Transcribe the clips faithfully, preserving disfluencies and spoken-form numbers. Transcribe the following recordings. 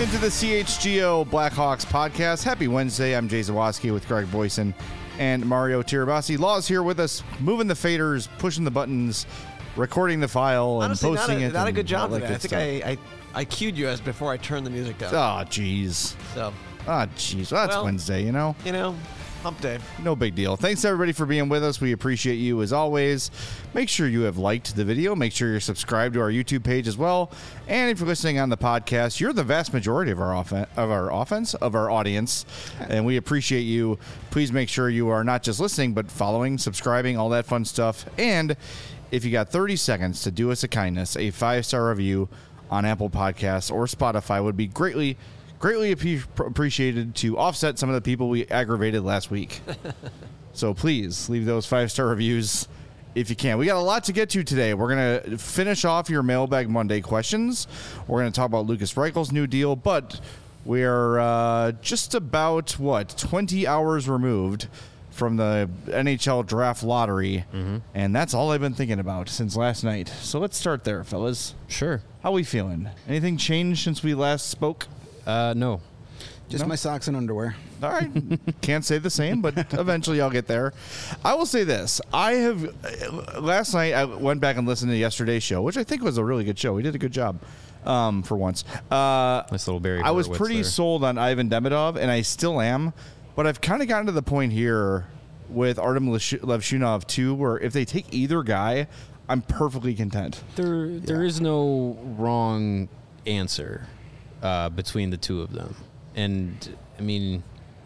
into the C H G O Blackhawks podcast. Happy Wednesday. I'm Jay Zawoski with Greg Boyson and Mario Tirabassi. Law's here with us, moving the faders, pushing the buttons, recording the file, and Honestly, posting not a, it. Not a good job today. I think I, I, I I cued you as before I turned the music down. Oh, jeez. So. Oh, jeez. Well, that's well, Wednesday, you know? You know, hump day. No big deal. Thanks, everybody, for being with us. We appreciate you, as always. Make sure you have liked the video. Make sure you're subscribed to our YouTube page as well. And if you're listening on the podcast, you're the vast majority of our offen- of our offense, of our audience. And we appreciate you. Please make sure you are not just listening, but following, subscribing, all that fun stuff. And if you got thirty seconds to do us a kindness, a five-star review on Apple Podcasts or Spotify would be greatly Greatly appreciated to offset some of the people we aggravated last week. So please leave those five-star reviews if you can. We got a lot to get to today. We're going to finish off your Mailbag Monday questions. We're going to talk about Lucas Reichel's new deal, but we're uh, just about, what, twenty hours removed from the N H L draft lottery, mm-hmm. and that's all I've been thinking about since last night. So let's start there, fellas. Sure. How we feeling? Anything changed since we last spoke? Uh, no. Just no? my socks and underwear. All right. Can't say the same, but eventually I'll get there. I will say this. I have, last night I went back and listened to yesterday's show, which I think was a really good show. We did a good job um, for once. Uh, nice little Barry I was Horowitz pretty there. sold on Ivan Demidov, and I still am, but I've kind of gotten to the point here with Artem Levshunov too, where if they take either guy, I'm perfectly content. There, there Yeah. is no wrong answer uh, between the two of them. And, I mean,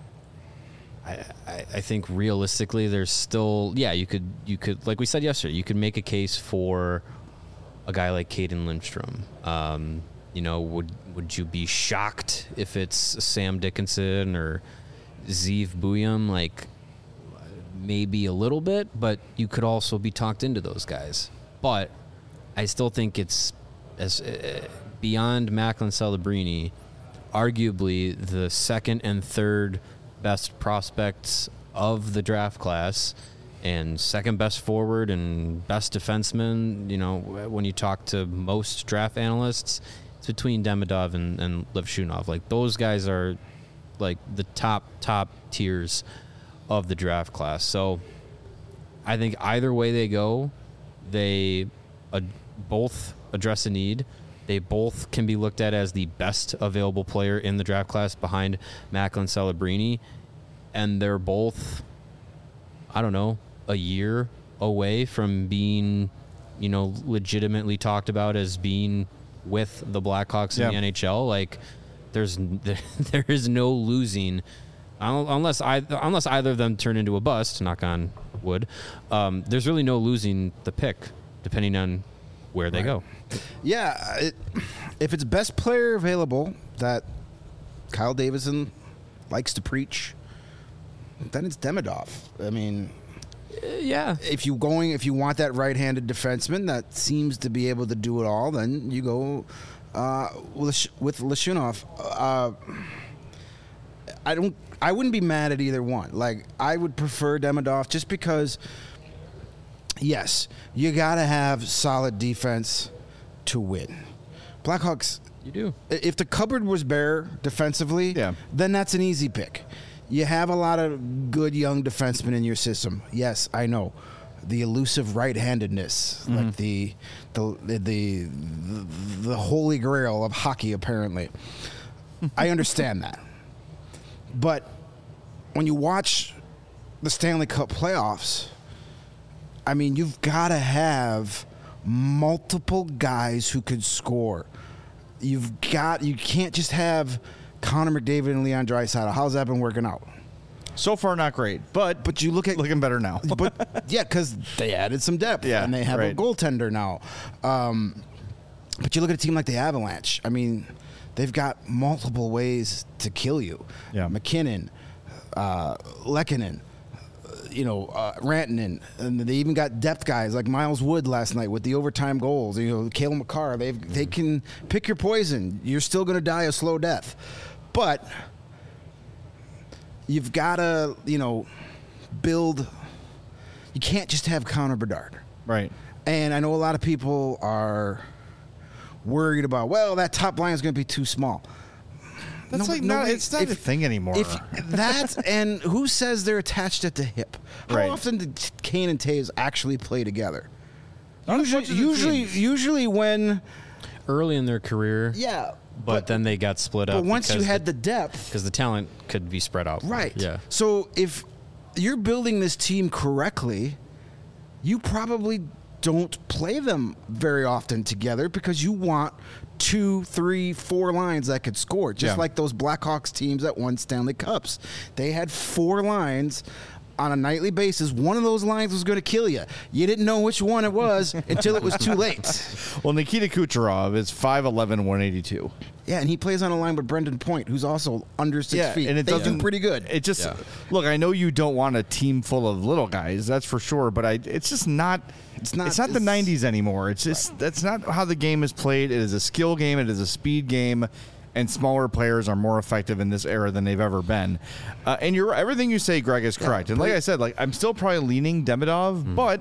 I, I, I think realistically there's still, yeah, you could, you could, like we said yesterday, you could make a case for a guy like Caden Lindstrom. Um, you know, would would you be shocked if it's Sam Dickinson or Zeev Buyum? Like, maybe a little bit, but you could also be talked into those guys. But I still think it's as uh, beyond Macklin Celebrini, arguably the second and third best prospects of the draft class and second best forward and best defenseman. You know, when you talk to most draft analysts, it's between Demidov and, and Levshunov. Like, those guys are like the top, top tiers of the draft class. So I think either way they go, they uh, both address a need. They both can be looked at as the best available player in the draft class behind Macklin Celebrini. And they're both, I don't know, a year away from being, you know, legitimately talked about as being with the Blackhawks in yeah. the N H L. Like, there's there, there is no losing unless I unless either of them turn into a bust. Knock on wood. Um, there's really no losing the pick, depending on where they Right. go. Yeah, it, if it's best player available that Kyle Davidson likes to preach, then it's Demidov. I mean, Uh, yeah. if you going if you want that right-handed defenseman that seems to be able to do it all, then you go uh, with with Leshunov. Uh, I don't. I wouldn't be mad at either one. Like, I would prefer Demidov just because. Yes, you gotta have solid defense to win. Blackhawks. You do. If the cupboard was bare defensively, Yeah. then that's an easy pick. You have a lot of good young defensemen in your system. Yes, I know. The elusive right-handedness, mm-hmm. like the the, the the the holy grail of hockey, apparently. I understand that. But when you watch the Stanley Cup playoffs, I mean, you've got to have multiple guys who could score. You've got you can't just have Connor McDavid and Leon Draisaitl. How's that been working out? So far, not great, but But you look at looking better now. but yeah, because they added some depth, Yeah, and they have right. a goaltender now. Um, but you look at a team like the Avalanche. I mean, they've got multiple ways to kill you. Yeah. McKinnon, uh, Lehkonen, you know, uh, Rantanen, and they even got depth guys like Miles Wood last night with the overtime goals. You know, Cale Makar. They they can pick your poison. You're still going to die a slow death, but you've got to, you know, build. You can't just have Connor Bedard. Right. And I know a lot of people are worried about, well, that top line is going to be too small. That's No, like no, not. if- It's not if- a thing anymore. If that's and who says they're attached at the hip? How Right. often did Kane and Taves actually play together? Not as Usually, much as it usually, seems. usually when Early in their career, yeah, but, then they got split up. but once you because had the depth, because the talent could be spread out. more. right? Yeah. So if you're building this team correctly, you probably don't play them very often together because you want two, three, four lines that could score, just Yeah. like those Blackhawks teams that won Stanley Cups. They had four lines on a nightly basis. One of those lines was going to kill you. You didn't know which one it was until it was too late. Well, Nikita Kucherov is five eleven, one eighty-two. Yeah, and he plays on a line with Brendan Point, who's also under six feet. and it they do doesn't pretty good. It just Yeah. look. I know you don't want a team full of little guys, that's for sure. But I, it's just not. It's not- It's not the it's- nineties anymore. It's just that's not how the game is played. It is a skill game. It is a speed game. And smaller players are more effective in this era than they've ever been. Uh, and you're everything you say, Greg, is correct. and like I said, like I'm still probably leaning Demidov, Mm-hmm. but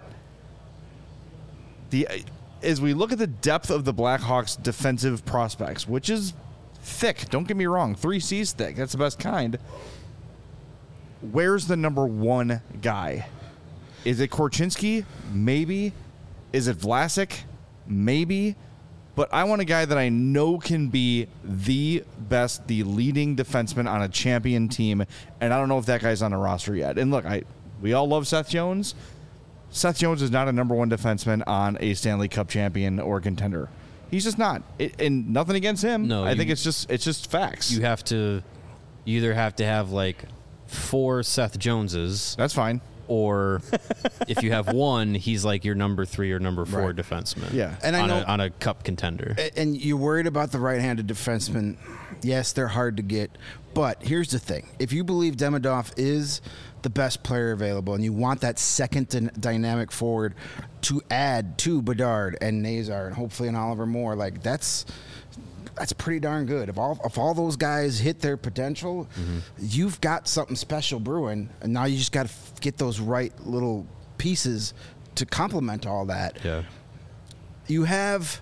the as we look at the depth of the Blackhawks' defensive prospects, which is thick. Don't get me wrong, three C's thick. That's the best kind. Where's the number one guy? Is it Korchinski? Maybe. Is it Vlasic? Maybe. But I want a guy that I know can be the best, the leading defenseman on a champion team, and I don't know if that guy's on the roster yet. And look, I we all love Seth Jones. Seth Jones is not a number one defenseman on a Stanley Cup champion or contender. He's just not. It, and nothing against him. No, I you- think it's just it's just facts. You have to, you either have to have like four Seth Joneses, That's fine. or if you have one, he's like your number three or number four Right. defenseman. Yeah. And I on, know- a, on a cup contender. A- And you're worried about the right-handed defensemen. Yes, they're hard to get. But here's the thing. If you believe Demidov is the best player available and you want that second dy- dynamic forward to add to Bedard and Nazar and hopefully an Oliver Moore, like that's that's pretty darn good. If all if all those guys hit their potential, you've got something special brewing. And now you just got to f- get those right little pieces to complement all that. Yeah. You have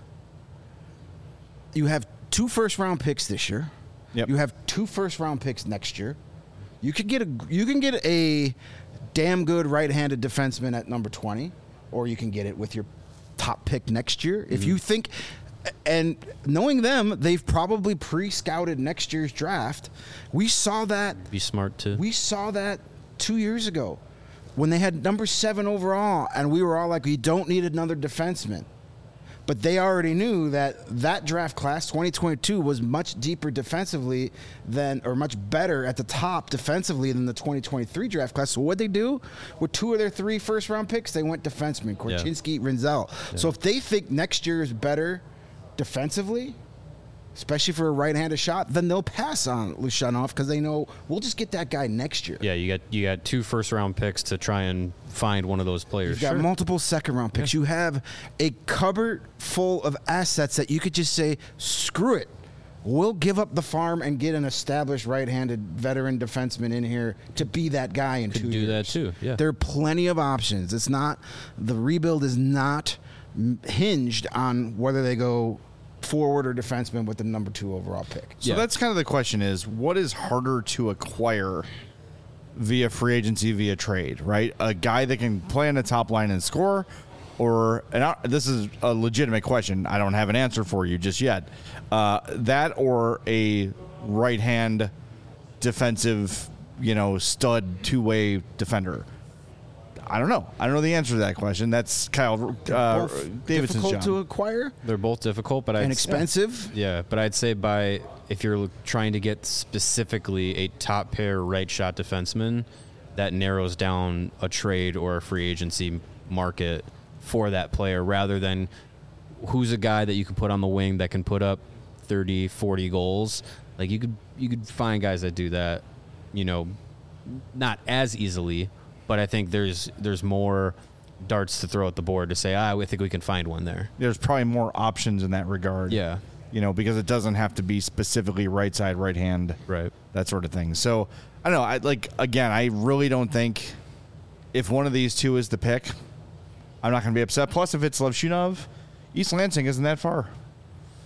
you have two first round picks this year. Yep. You have two first round picks next year. You could get a you can get a damn good right-handed defenseman at number twenty, or you can get it with your top pick next year. If you think, and knowing them, they've probably pre-scouted next year's draft. We saw that Be smart to. we saw that two years ago when they had number seven overall, and we were all like, we don't need another defenseman. But they already knew that that draft class, twenty twenty-two, was much deeper defensively than, or much better at the top defensively than the twenty twenty-three draft class. So what'd they do? With two of their three first round picks, they went defenseman, Korchinski, Rinzel. So if they think next year is better defensively, especially for a right-handed shot, then they'll pass on Lushanov because they know we'll just get that guy next year. Yeah, you got you got two first round picks to try and find one of those players. You've got Sure. multiple second round picks. You have a cupboard full of assets that you could just say, screw it. We'll give up the farm and get an established right-handed veteran defenseman in here to be that guy in Could two do years. that too, yeah. There are plenty of options. It's not the rebuild is not m- hinged on whether they go forward or defenseman with the number two overall pick. So Yeah. that's kind of the question: is what is harder to acquire via free agency, via trade? Right, a guy that can play on the top line and score, or and I, this is a legitimate question. I don't have an answer for you just yet. Uh, that or a right hand defensive, you know, stud two way defender. I don't know. I don't know the answer to that question. That's Kyle uh, Both Davidson's difficult job. to acquire They're both difficult, but I'd and expensive. Yeah, but I'd say by if you're trying to get specifically a top pair right shot defenseman, that narrows down a trade or a free agency market for that player rather than who's a guy that you can put on the wing that can put up thirty, forty goals. Like you could you could find guys that do that, you know, not as easily, but I think there's there's more darts to throw at the board to say, ah, I think we can find one there. There's probably more options in that regard. Yeah. You know, because it doesn't have to be specifically right side, right hand, Right. that sort of thing. So I don't know. I like again. I really don't think if one of these two is the pick, I'm not going to be upset. Plus, if it's Levshunov, East Lansing isn't that far.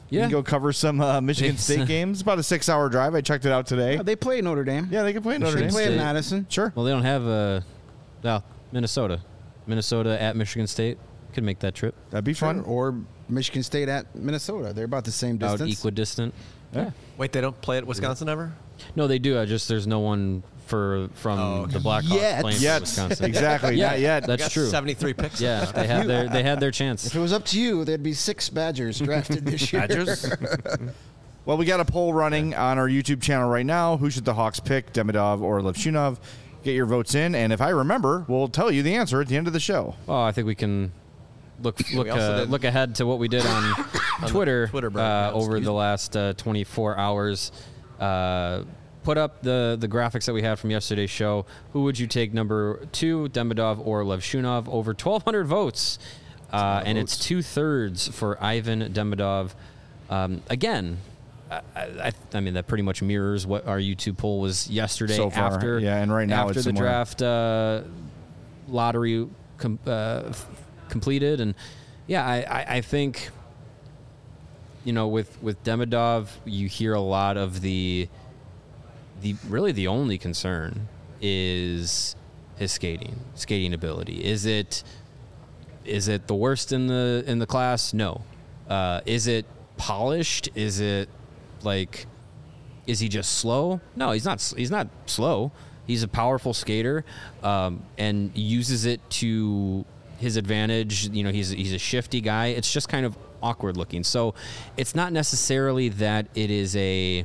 You Yeah. can go cover some uh, Michigan It's, State uh, games. It's about a six-hour drive. I checked it out today. Yeah, they play Notre Dame. Yeah, they can play at Notre They Dame. play at State. Madison. Sure. Well, they don't have a. Well, Minnesota. Minnesota at Michigan State. Could make that trip. That'd be Sure. fun. Or Michigan State at Minnesota. They're about the same About distance. equidistant. Yeah. Wait, they don't play at Wisconsin ever? No, they do. I just there's no one for from Oh, okay. the Blackhawks Yet. playing for Yet. Wisconsin. Exactly. Yeah, Not yet. That's Got true. seventy-three picks. Yeah, they had their they had their chance. If it was up to you, there'd be six Badgers drafted this year. Badgers. Well, we got a poll running on our YouTube channel right now. Who should the Hawks pick, Demidov or Levshunov? Get your votes in, and if I remember, we'll tell you the answer at the end of the show. Oh, I think we can look look We also uh, did- look ahead to what we did on Twitter, Twitter uh, breakdown, over excuse the me. last uh, twenty-four hours. Uh, put up the the graphics that we had from yesterday's show. Who would you take, number two, Demidov or Levshunov? Over twelve hundred votes, uh, and it's two thirds for Ivan Demidov. Um, again. I, I, I mean that pretty much mirrors what our YouTube poll was yesterday. So far, after yeah, and right now after it's the somewhere- draft uh, lottery com- uh, f- completed, and yeah, I, I, I think you know with with Demidov, you hear a lot of the the really the only concern is his skating skating ability. Is it is it the worst in the in the class? No. Uh, is it polished? Is it like, is he just slow? No, he's not. He's not slow. He's a powerful skater, um, and uses it to his advantage. You know, he's he's a shifty guy. It's just kind of awkward looking. So, it's not necessarily that it is a,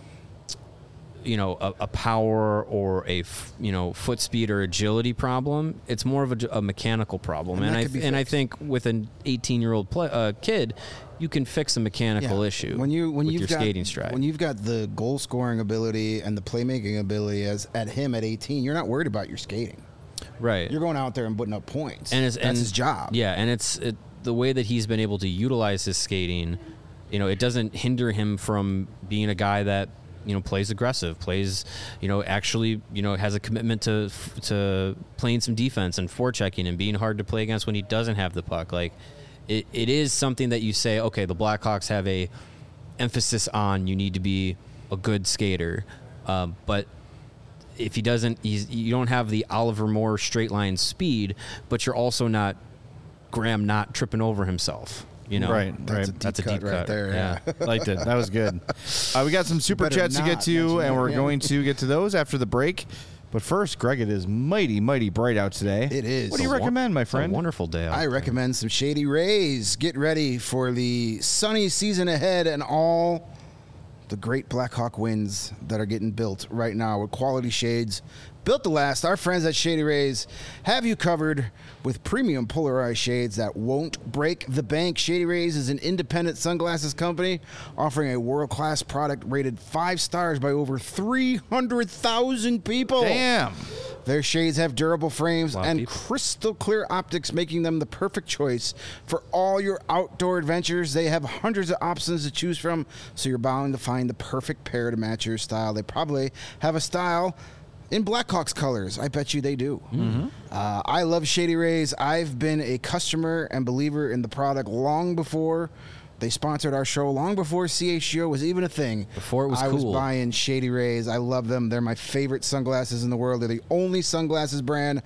you know, a, a power or a f- you know foot speed or agility problem. It's more of a, a mechanical problem. And And, that I could be and I fixed. think with an eighteen year old play, uh, kid, you can fix a mechanical Yeah. issue when you when with you've your got, skating stride. When you've got the goal scoring ability and the playmaking ability as at him at eighteen, you're not worried about your skating. right. You're going out there and putting up points. and it's, that's and, his job. Yeah, and it's it, the way that he's been able to utilize his skating. You know, it doesn't hinder him from being a guy that you know plays aggressive, plays you know actually you know has a commitment to to playing some defense and forechecking and being hard to play against when he doesn't have the puck. Like it, it is something that you say, okay, the Blackhawks have a emphasis on you need to be a good skater, um, but if he doesn't, he's, you don't have the Oliver Moore straight line speed, but you're also not Graham not tripping over himself. You know, Right, That's right. a deep That's a cut deep right cut. there. Yeah. Liked it. That was good. Uh, we got some super better chats to get not to, mention and that, we're yeah. going to get to those after the break. But first, Greg, it is mighty, mighty bright out today. It is. What do you It's a recommend, my It's a friend? wonderful day. out I there. recommend some Shady Rays. Get ready for the sunny season ahead and all the great Blackhawk wins that are getting built right now with quality shades. Built to last, our friends at Shady Rays have you covered with premium polarized shades that won't break the bank. Shady Rays is an independent sunglasses company offering a world-class product rated five stars by over three hundred thousand people. Damn. Their shades have durable frames A lot of and people. crystal clear optics, making them the perfect choice for all your outdoor adventures. They have hundreds of options to choose from, so you're bound to find the perfect pair to match your style. They probably have a style in Blackhawks colors. I bet you they do. Mm-hmm. Uh, I love Shady Rays. I've been a customer and believer in the product long before they sponsored our show, long before C H G O was even a thing. Before it was I cool. was buying Shady Rays. I love them. They're my favorite sunglasses in the world. They're the only sunglasses brand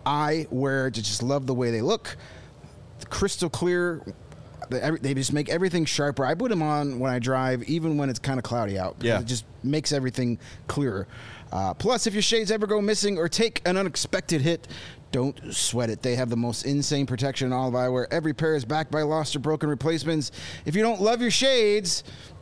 I wear to just love the way they look. The crystal clear. They, every, they just make everything sharper. I put them on when I drive, even when it's kind of cloudy out. Yeah. It just makes everything clearer. Uh, plus, if your shades ever go missing or take an unexpected hit, don't sweat it. They have the most insane protection in all of eyewear. Every pair is backed by lost or broken replacements. If you don't love your shades,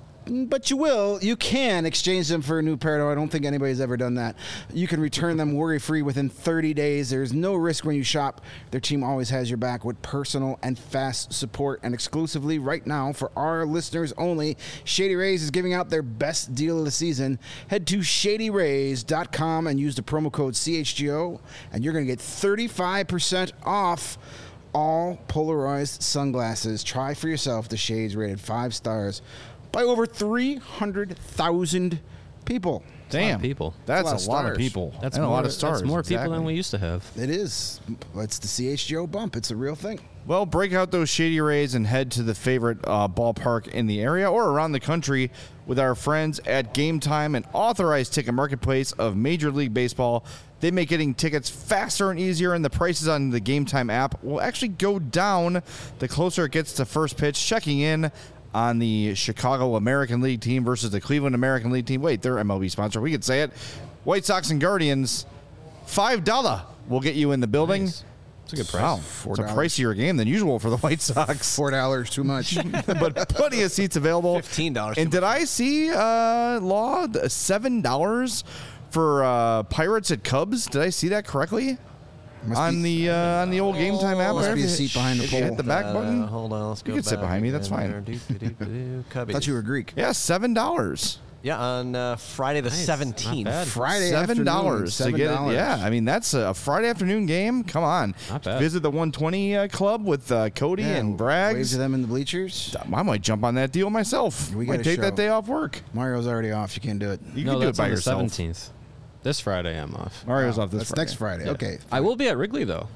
but you will, you can exchange them for a new pair. Though I don't think anybody's ever done that. You can return them worry-free within thirty days. There's no risk when you shop. Their team always has your back with personal and fast support. And exclusively right now, for our listeners only, Shady Rays is giving out their best deal of the season. Head to shady rays dot com and use the promo code C H G O, and you're going to get thirty-five percent off all polarized sunglasses. Try for yourself the shades rated five stars by over three hundred thousand people. Damn, people. That's That's a lot of stars. people. That's and more, a lot of stars. That's more people exactly. than we used to have. It is. It's the C H G O bump. It's a real thing. Well, break out those Shady Rays and head to the favorite uh, ballpark in the area or around the country with our friends at Game Time, an authorized ticket marketplace of Major League Baseball. They make getting tickets faster and easier, and the prices on the Game Time app will actually go down the closer it gets to first pitch. Checking in on the Chicago American League team versus the Cleveland American League team. Wait, they're M L B sponsor. We could say it. White Sox and Guardians, five dollars will get you in the building. Nice. It's a good price. Wow, Four it's a dollars. pricier game than usual for the White Sox. Four dollars too much. But plenty of seats available. fifteen dollars. And did I see uh, Law th- seven dollars for uh, Pirates at Cubs? Did I see that correctly Must on be- the uh, on the old Game Time app? Must there? be a If you- seat behind the if you pole. hit the back button. Uh, hold on, let's go. You can sit back behind me, that's and fine. there. Do, do, do, do, do. Cubbies. Thought you were Greek. Yeah, seven dollars. Yeah, on uh, Friday the Nice. seventeenth. Not bad. Friday Seven dollars to Seven get it. dollars. Yeah, I mean that's a Friday afternoon game. Come on, Not bad. visit the one twenty uh, club with uh, Cody Yeah, and Wave Braggs. to them in the bleachers. I might jump on that deal myself. We might gotta take that show. day off work. Mario's already off. You can't do it. You no, can do it that's by on the yourself. seventeenth. This Friday I'm off. Mario's Wow, off this That's Friday. next Friday. Yeah. Okay. I will be at Wrigley though.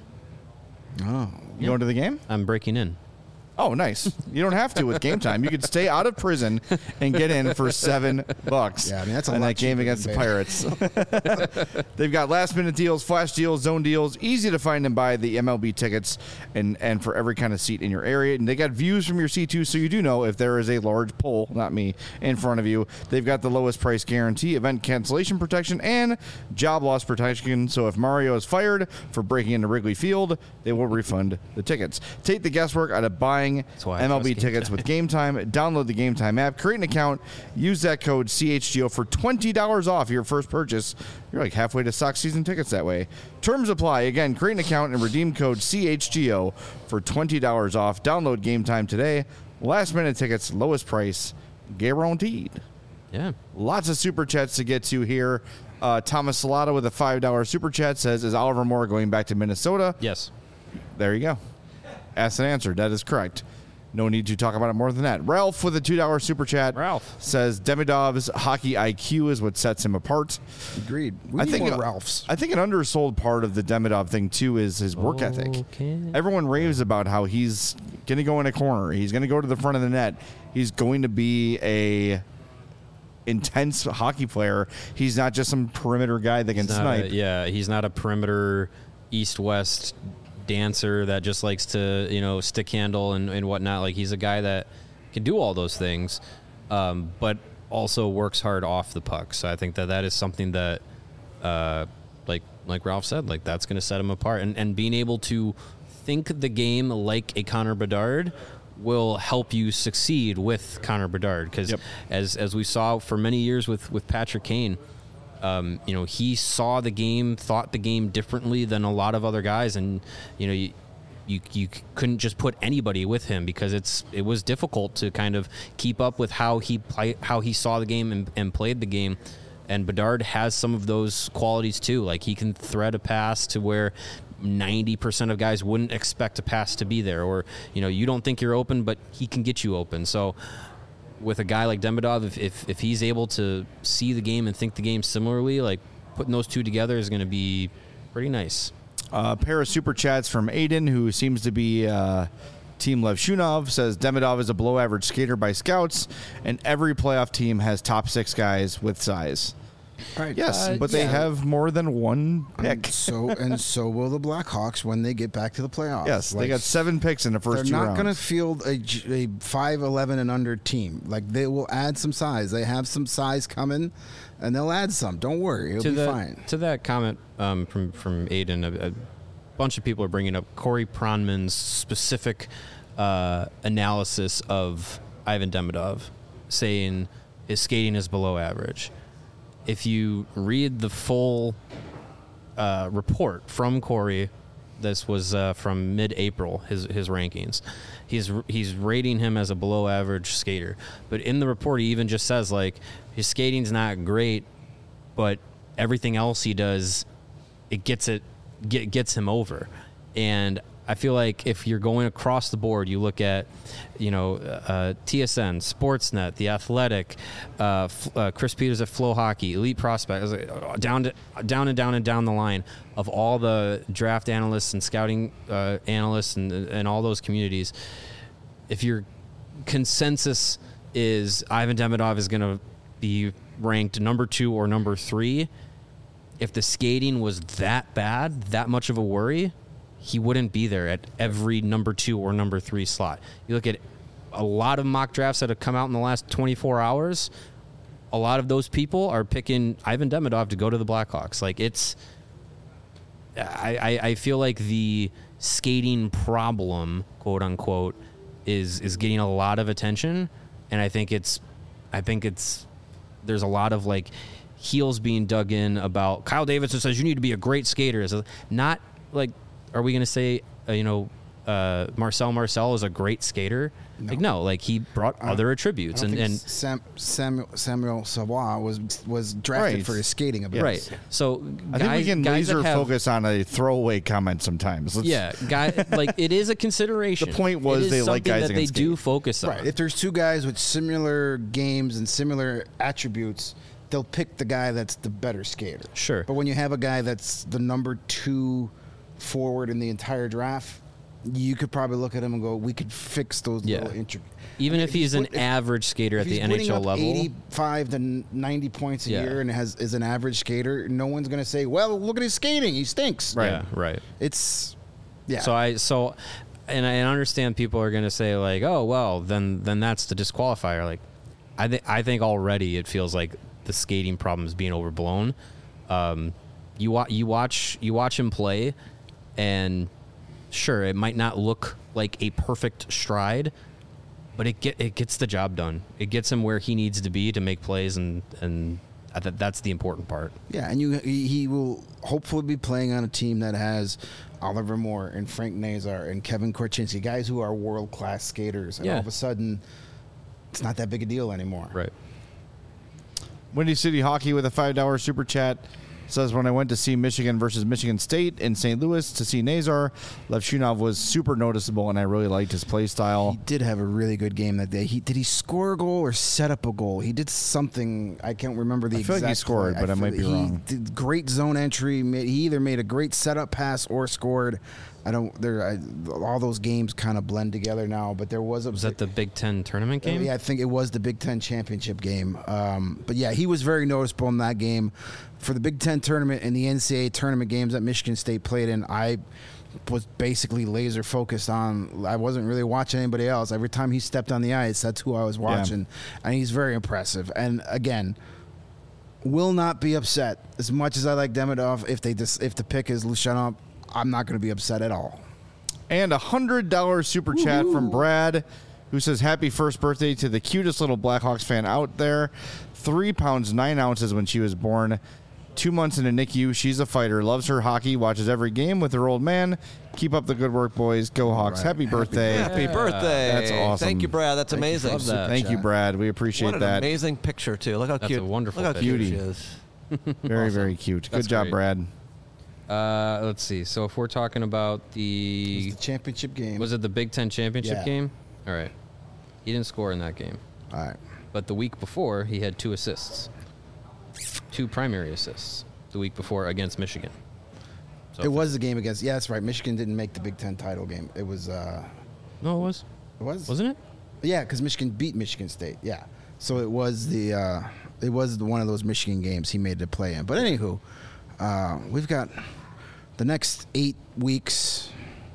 Oh. You going to the game? I'm breaking in. Oh, nice. You don't have to with Game Time. You could stay out of prison and get in for seven bucks. Yeah, I mean, that's a in lot that game cheaper against the than Pirates. They've got last minute deals, flash deals, zone deals, easy to find and buy the M L B tickets and, and for every kind of seat in your area. And they got views from your seat too, so you do know if there is a large pole, not me, in front of you. They've got the lowest price guarantee, event cancellation protection, and job loss protection. So if Mario is fired for breaking into Wrigley Field, they will refund the tickets. Take the guesswork out of buying why I M L B trust Game tickets with Game Time. Download the Game Time app, create an account, use that code C H G O for twenty dollars off your first purchase. You're like halfway to Sox season tickets that way. Terms apply. Again, create an account and redeem code C H G O for twenty dollars off. Download Game Time today. Last minute tickets, lowest price, guaranteed. Yeah. Lots of super chats to get to here. Uh, Thomas Salata with a five dollars super chat says, is Oliver Moore going back to Minnesota? Yes. There you go. Asked and answered. That is correct. No need to talk about it more than that. Ralph with a two dollars super chat. Ralph. Says Demidov's hockey I Q is what sets him apart. Agreed. We I need think more uh, Ralphs. I think an undersold part of the Demidov thing too is his work ethic. Okay. Everyone raves about how he's going to go in a corner. He's going to go to the front of the net. He's going to be a intense hockey player. He's not just some perimeter guy that can He's not snipe. a- yeah, he's not a perimeter east-west dancer that just likes to, you know, stick handle and, and whatnot. Like, he's a guy that can do all those things, um, but also works hard off the puck. So I think that that is something that, uh, like like Ralph said, like that's going to set him apart. And, and being able to think the game like a Connor Bedard will help you succeed with Connor Bedard. Because Yep. as as we saw for many years with, with Patrick Kane, um, you know, he saw the game, thought the game differently than a lot of other guys. And, you know, you, you you couldn't just put anybody with him because it's it was difficult to kind of keep up with how he play, how he saw the game and, and played the game. And Bedard has some of those qualities too. Like, he can thread a pass to where ninety percent of guys wouldn't expect a pass to be there, or, you know, you don't think you're open, but he can get you open. So with a guy like Demidov, if, if, if he's able to see the game and think the game similarly, like, putting those two together is going to be pretty nice. A pair of super chats from Aiden, who seems to be uh, Team Lev Shunov, says Demidov is a below average skater by scouts, and every playoff team has top six guys with size. Right. Yes, Uh, but they yeah. have more than one And pick. so and so will the Blackhawks when they get back to the playoffs. Yes, they Like, got seven picks in the They're first two not rounds. going to field a, j- a five eleven and under team. Like, they will add some size. They have some size coming, and they'll add some. Don't worry, it'll to be the, fine. To that comment um, from from Aiden, a, a bunch of people are bringing up Corey Pronman's specific uh, analysis of Ivan Demidov, saying his skating is below average. If you read the full uh, report from Corey, this was uh, from mid-April, his his rankings. He's he's rating him as a below-average skater, but in the report he even just says, like, his skating's not great, but everything else he does, it gets it get, gets him over. And I feel like if you're going across the board, you look at, you know, uh, T S N, Sportsnet, The Athletic, uh, F- uh, Chris Peters at Flow Hockey, Elite Prospects, down to, down and down and down the line of all the draft analysts and scouting uh, analysts and and all those communities. If your consensus is Ivan Demidov is going to be ranked number two or number three, if the skating was that bad, that much of a worry, he wouldn't be there at every number two or number three slot. You look at a lot of mock drafts that have come out in the last twenty-four hours, a lot of those people are picking Ivan Demidov to go to the Blackhawks. Like, it's, I, I, I feel like the skating problem, quote unquote, is is getting a lot of attention, and I think it's, I think it's, there's a lot of like heels being dug in about Kyle Davidson says you need to be a great skater. It's not like, are we going to say, uh, you know, uh, Marcel Marcel is a great skater? No. Like, no, like he brought I, other attributes. I don't and think and Sam, Samuel, Samuel Savoie was was drafted Right. for his skating ability. right. So I guys, think we can guys that laser have, focus on a throwaway comment sometimes. Let's, Yeah, guy, like it is a consideration. The point was It is they like something guys that that they can do skate. focus on. Right. If there's two guys with similar games and similar attributes, they'll pick the guy that's the better skater. Sure. But when you have a guy that's the number two forward in the entire draft, you could probably look at him and go, we could fix those Yeah. little intri- Even I mean, if he's an put- if- average skater if at the he's N H putting L up level, eighty-five to ninety points a Yeah. year and has is an average skater, no one's going to say, well, look at his skating. He stinks. Right. yeah, right. It's, yeah. So I so, and I understand people are going to say like, oh well, then then that's the disqualifier. Like, I think I think already it feels like the skating problem is being overblown. Um, you wa- you watch you watch him play, and sure, it might not look like a perfect stride, but it get it gets the job done. It gets him where he needs to be to make plays, and and I th- that's the important part. Yeah, and you he he will hopefully be playing on a team that has Oliver Moore and Frank Nazar and Kevin Korchinski, guys who are world class skaters, and Yeah. all of a sudden, it's not that big a deal anymore. Right. Windy City Hockey with a five dollar super chat says, when I went to see Michigan versus Michigan State in Saint Louis to see Nazar, Levshunov was super noticeable, and I really liked his play style. He did have a really good game that day. He did he score a goal or set up a goal? He did something. I can't remember the I feel exact. like he scored, play. but I feel might be he wrong. Did great zone entry. Made, he either made a great setup pass or scored. I don't. There, I, all those games kind of blend together now. But there was a. Was that the Big Ten tournament game? Yeah, I think it was the Big Ten championship game. Um, but yeah, he was very noticeable in that game. For the Big Ten tournament and the N C double A tournament games that Michigan State played in, I was basically laser focused on. I wasn't really watching anybody else. Every time he stepped on the ice, that's who I was watching, and he's very impressive. And again, will not be upset as much as I like Demidov. If they dis- if the pick is Lushanov, I'm not going to be upset at all. And a hundred dollar super chat from Brad, who says, happy first birthday to the cutest little Blackhawks fan out there. Three pounds, nine ounces when she was born. Two months in a N I C U. She's a fighter. Loves her hockey. Watches every game with her old man. Keep up the good work, boys. Go Hawks. Right. Happy birthday. Happy birthday. That's awesome. Thank you, Brad. That's Thank you. amazing. Love that. Thank you, Brad. We appreciate What an that. amazing picture, too. Look how That's cute. a wonderful Look how picture. cute she Beauty. is. Very, Awesome. very cute. Good That's job, great. Brad. Uh, let's see. So if we're talking about It the, was the championship game. was it the Big Ten championship Yeah. game? All right. He didn't score in that game, All right. but the week before he had two assists, two primary assists. The week before against Michigan. So It was the game against. Yeah, that's right. Michigan didn't make the Big Ten title game. It was. Uh, no, it was it was. wasn't it? Yeah, because Michigan beat Michigan State. Yeah, so it was the. Uh, it was the, one of those Michigan games he made to play in. But anywho, uh, we've got the next eight weeks,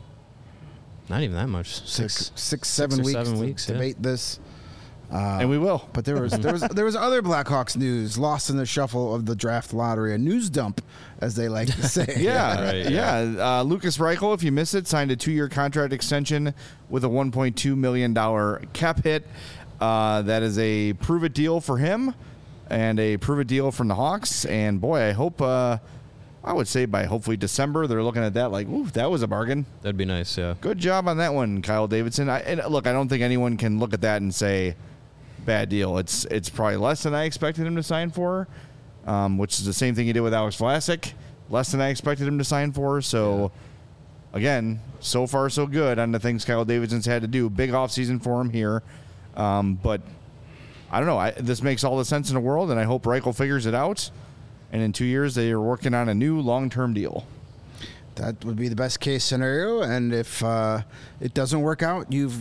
Not even that much. six, Six. six, seven or weeks seven to weeks, yeah. debate this. Uh, and we will. But there was there was there was other Blackhawks news lost in the shuffle of the draft lottery, a news dump, as they like to say. Yeah, Right, yeah. Uh, Lucas Reichel, if you missed it, signed a two-year contract extension with a one point two million dollars cap hit. Uh, that is a prove-it deal for him and a prove-it deal from the Hawks. And, boy, I hope, uh, I would say by hopefully December, they're looking at that like, ooh, that was a bargain. That'd be nice. Yeah. Good job on that one, Kyle Davidson. I, and look, I don't think anyone can look at that and say, bad deal. It's it's probably less than I expected him to sign for, um, which is the same thing he did with Alex Vlasic. Less than I expected him to sign for. So, again, so far so good on the things Kyle Davidson's had to do. Big offseason for him here. Um, but I don't know. I, this makes all the sense in the world, and I hope Reichel figures it out. And in two years, they are working on a new long-term deal. That would be the best case scenario. And if uh, it doesn't work out, you've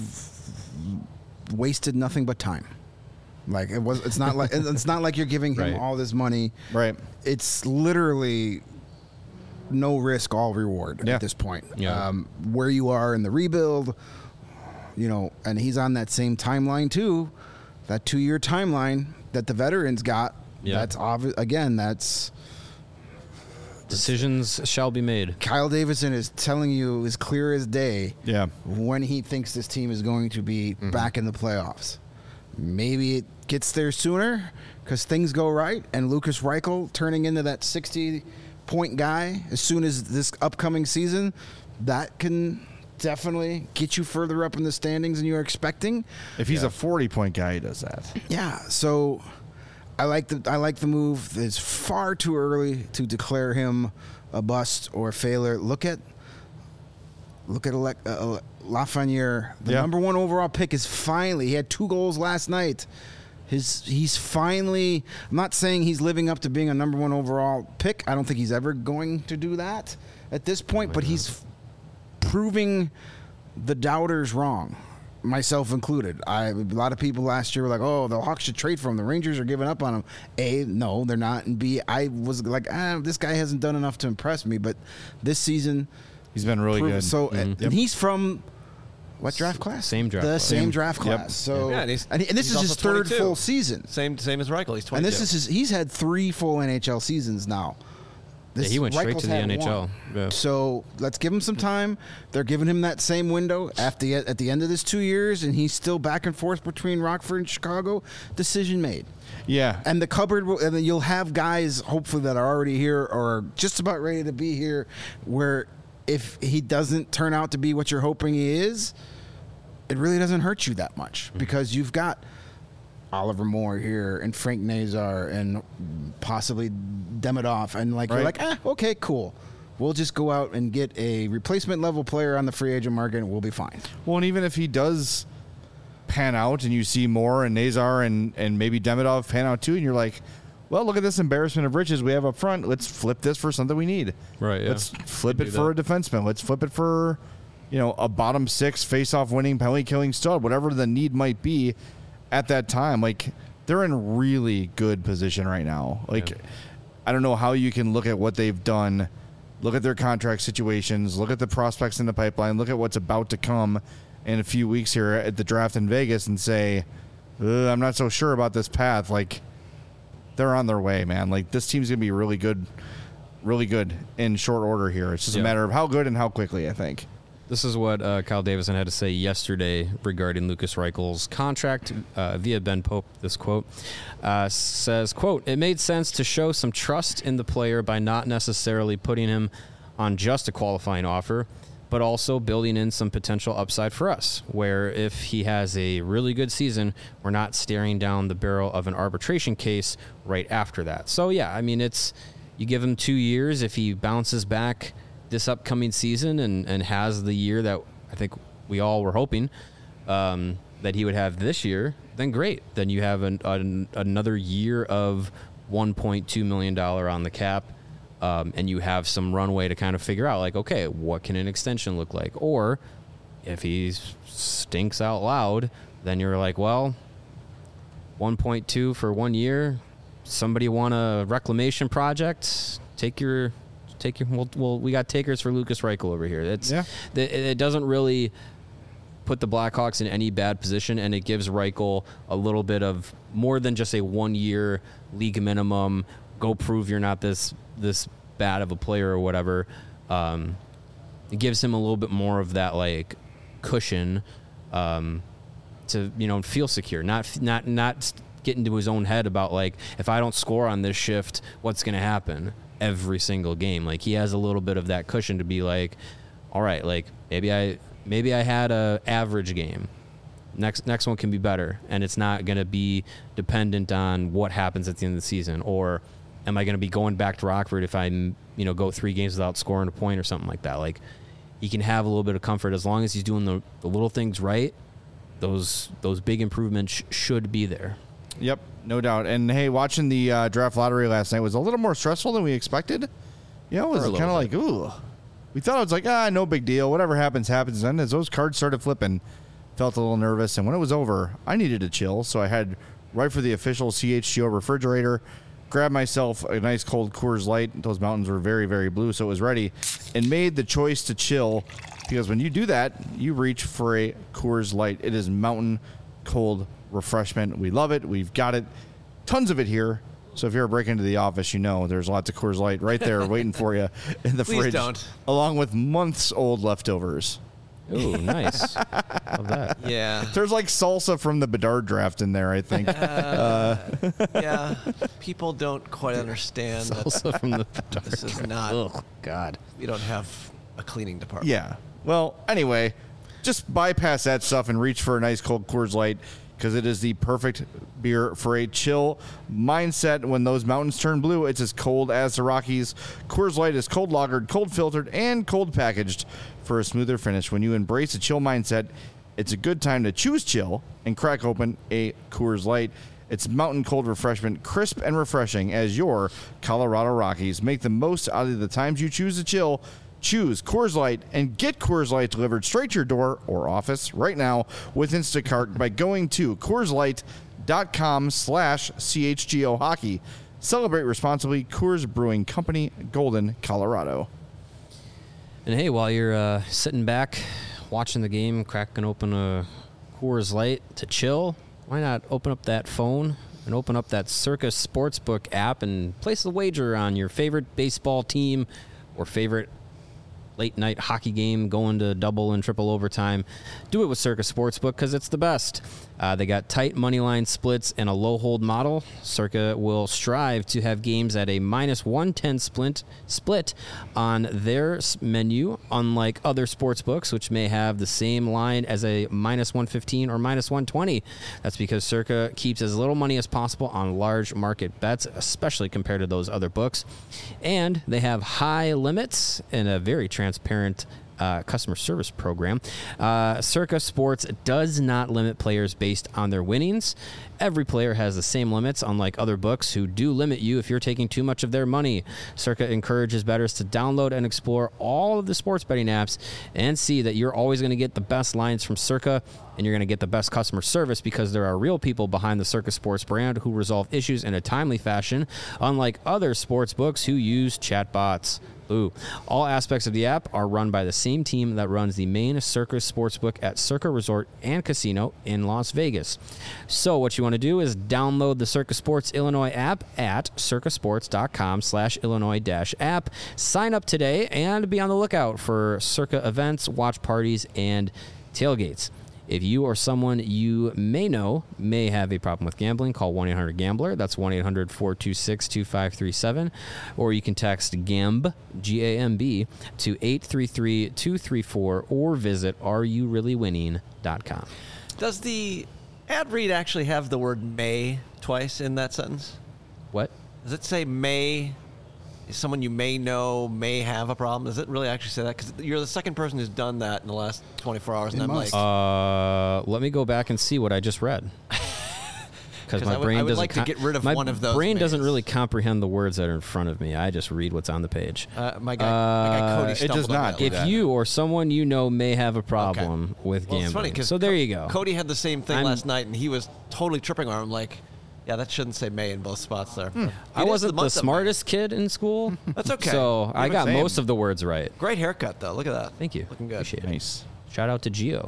wasted nothing but time. Like it was. It's not like it's not like you're giving him Right. all this money. Right. It's literally no risk, all reward Yeah. at this point. Yeah. Um, where you are in the rebuild, you know, and he's on that same timeline too, that two-year timeline that the veterans got. Yeah. That's obvious. Again, that's Decisions shall be made. Kyle Davidson is telling you as clear as day Yeah. when he thinks this team is going to be Mm-hmm. back in the playoffs. Maybe it gets there sooner because things go right, and Lucas Reichel turning into that sixty-point guy as soon as this upcoming season, that can definitely get you further up in the standings than you're expecting. If he's a forty-point guy, he does that. Yeah, so I like the I like the move. It's far too early to declare him a bust or a failure. Look at look at Alec, uh, Lafreniere. The Yeah. number one overall pick is finally. He had two goals last night. His he's finally. I'm not saying he's living up to being a number one overall pick. I don't think he's ever going to do that at this point. But he's proving the doubters wrong, myself included. I a lot of people last year were like, "Oh, the Hawks should trade for him. The Rangers are giving up on him." A, no, they're not. And B, I was like, "Ah, this guy hasn't done enough to impress me." But this season, He's been really proved- good. So, and, and he's from what draft class? Same draft The class. same Same- draft yep. class. So, Yeah, and he's- and, he- and this he's is his also third twenty-two. full season. Same same as Reichel. He's twenty-two. And this is his, he's had three full N H L seasons now. This, Yeah, he went straight Reichel's to the had N H L. one. Yeah. So let's give him some time. They're giving him that same window at the at the end of this two years, and he's still back and forth between Rockford and Chicago. Decision made. yeah. And the cupboard, will, and then you'll have guys hopefully that are already here or just about ready to be here. Where if he doesn't turn out to be what you're hoping he is, it really doesn't hurt you that much because you've got Oliver Moore here and Frank Nazar and possibly Demidov, and like Right. you're like, ah, okay, cool. We'll just go out and get a replacement level player on the free agent market, and we'll be fine. Well, and even if he does pan out and you see Moore and Nazar and, and maybe Demidov pan out too, and you're like, well, look at this embarrassment of riches we have up front. Let's flip this for something we need. Right, yeah. Let's flip Could it do for that. a defenseman. Let's flip it for, you know, a bottom six face-off winning, penalty-killing stud, whatever the need might be at that time. Like, they're in really good position right now. Like, Yeah. I don't know how you can look at what they've done, look at their contract situations, look at the prospects in the pipeline, look at what's about to come in a few weeks here at the draft in Vegas and say, "Ugh, I'm not so sure about this path." Like, they're on their way, man. Like, this team's going to be really good, really good in short order here. It's just a Yeah. matter of how good and how quickly, I think. This is what uh, Kyle Davidson had to say yesterday regarding Lucas Reichel's contract uh, via Ben Pope. This quote uh, says, quote, "It made sense to show some trust in the player by not necessarily putting him on just a qualifying offer, but also building in some potential upside for us, where if he has a really good season, we're not staring down the barrel of an arbitration case right after that." So, yeah, I mean, it's you give him two years. If he bounces back this upcoming season and, and has the year that I think we all were hoping um, that he would have this year, then great. Then you have an, an, another year of one point two million dollars on the cap, um, and you have some runway to kind of figure out, like, okay, what can an extension look like? Or if he stinks out loud, then you're like, well, one point two for one year. Somebody want a reclamation project? Take your... Take your well, well, we got takers for Lucas Reichel over here. It's Yeah. it, it doesn't really put the Blackhawks in any bad position, and it gives Reichel a little bit of more than just a one-year league minimum. Go prove you're not this this bad of a player or whatever. Um, it gives him a little bit more of that like cushion um, to you know feel secure, not not not get into his own head about like if I don't score on this shift, what's going to happen every single game. Like he has a little bit of that cushion to be like, all right, like maybe I maybe I had a average game. Next next one can be better, and it's not going to be dependent on what happens at the end of the season. Or am I going to be going back to Rockford if I you know go three games without scoring a point or something like that? Like he can have a little bit of comfort as long as he's doing the, the little things right. Those those big improvements sh- should be there. Yep, no doubt. And hey, watching the uh, draft lottery last night was a little more stressful than we expected. You know, it was For a kind of little like, ooh. We thought it was like, ah, no big deal. Whatever happens, happens. And as those cards started flipping, felt a little nervous. And when it was over, I needed to chill. So I had right for the official C H G O refrigerator, grabbed myself a nice cold Coors Light. Those mountains were very, very blue, so it was ready. And made the choice to chill because when you do that, you reach for a Coors Light. It is mountain cold refreshment. We love it. We've got it. Tons of it here. So if you're breaking into the office, you know there's lots of Coors Light right there waiting for you in the Please fridge. don't. Along with months old leftovers. Ooh, nice. Love that. Yeah. There's like salsa from the Bedard draft in there, I think. Uh, yeah. People don't quite understand that Also from the this is not. Oh God. We don't have a cleaning department. Yeah. Well, anyway, just bypass that stuff and reach for a nice cold Coors Light because it is the perfect beer for a chill mindset. When those mountains turn blue, it's as cold as the Rockies. Coors Light is cold lagered, cold filtered, and cold packaged for a smoother finish. When you embrace a chill mindset, it's a good time to choose chill and crack open a Coors Light. It's mountain cold refreshment, crisp and refreshing as your Colorado Rockies. Make the most out of the times you choose to chill. Choose Coors Light and get Coors Light delivered straight to your door or office right now with Instacart by going to CoorsLight.com slash CHGO Hockey. Celebrate responsibly. Coors Brewing Company, Golden, Colorado. And hey, while you're uh, sitting back watching the game, cracking open a Coors Light to chill, why not open up that phone and open up that Circa Sportsbook app and place a wager on your favorite baseball team or favorite late night hockey game going to double and triple overtime. Do it with Circa Sportsbook because it's the best. Uh, they got tight money line splits and a low hold model. Circa will strive to have games at a minus one ten split split on their menu, unlike other sports books, which may have the same line as a minus one fifteen or minus one twenty. That's because Circa keeps as little money as possible on large market bets, especially compared to those other books. And they have high limits and a very transparent Uh, customer service program. Uh, Circa Sports does not limit players based on their winnings. Every player has the same limits, unlike other books who do limit you if you're taking too much of their money. Circa encourages bettors to download and explore all of the sports betting apps and see that you're always going to get the best lines from Circa, and you're going to get the best customer service because there are real people behind the Circa Sports brand who resolve issues in a timely fashion, unlike other sports books who use chatbots. Ooh. All aspects of the app are run by the same team that runs the main Circa Sportsbook at Circa Resort and Casino in Las Vegas. So what you want to do is download the Circa Sports Illinois app at circasports.com slash Illinois dash app. Sign up today and be on the lookout for Circa events, watch parties, and tailgates. If you or someone you may know may have a problem with gambling, call one eight hundred gambler. That's one eight hundred four two six two five three seven. Or you can text GAMB, G A M B, to eight three three two three four or visit are you really winning dot com. Does the ad read actually have the word may twice in that sentence? What? Does it say may? Someone you may know may have a problem. Does it really actually say that? Because you're the second person who's done that in the last twenty-four hours, and It I'm must. like, Uh, let me go back and see what I just read. Because 'Cause my I would- brain I would doesn't like to com- get rid of my one of those brain doesn't mays. really comprehend the words that are in front of me. I just read what's on the page. uh, my guy, my guy Cody Uh, it stumbled does on not that do one. If that. you or someone you know may have a problem with Well, gambling, it's funny because so there you go. Cody had the same thing I'm- last night, and he was totally tripping on him. Like, yeah, that shouldn't say may in both spots there. It I is wasn't the, month of May. smartest kid in school. That's okay. So I the got same. most of the words right. Great haircut, though. Look at that. Thank you. Looking good. Appreciate it. Nice. Shout out to Gio.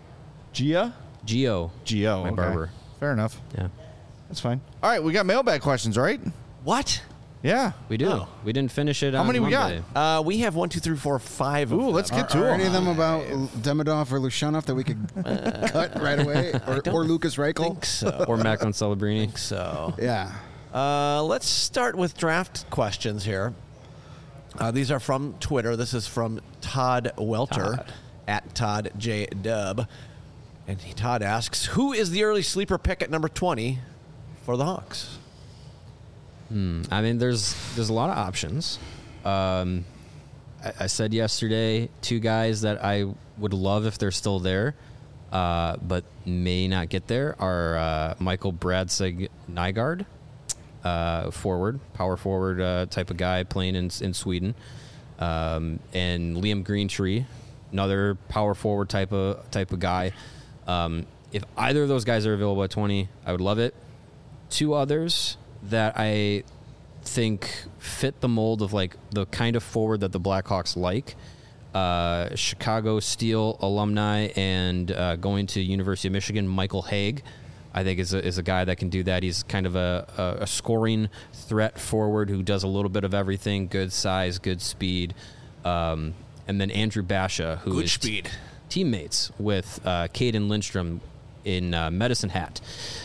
Gia? Gio. Gio. My okay. barber. Fair enough. Yeah. That's fine. All right, we got mailbag questions, right? What? Yeah. We do. Oh. We didn't finish it How on many we got? Monday. Uh, we have one, two, three, four, five. Of Ooh, let's them. get to Are them. any of them about Demidov or Lushanov that we could cut right away? Or, don't or Lucas I Reichel? think so. Or Macklin Celebrini. so. Yeah. Uh, let's start with draft questions here. Uh, these are from Twitter. This is from Todd Welter Todd. at Todd J Dub, and he, Todd asks, "Who is the early sleeper pick at number twenty for the Hawks?" I mean, there's there's a lot of options. Um, I, I said yesterday, two guys that I would love if they're still there, uh, but may not get there are uh, Michael Bradsig Nygaard, uh, forward, power forward uh, type of guy playing in in Sweden, um, and Liam Greentree, another power forward type of type of guy. Um, if either of those guys are available at twenty, I would love it. Two others that I think fit the mold of like the kind of forward that the Blackhawks like. Uh, Chicago Steel alumni and uh, going to University of Michigan, Michael Haig, I think is a, is a guy that can do that. He's kind of a, a, a scoring threat forward who does a little bit of everything, good size, good speed. Um, and then Andrew Basha, who Good is speed. T- teammates with uh, Caden Lindstrom in uh, Medicine Hat.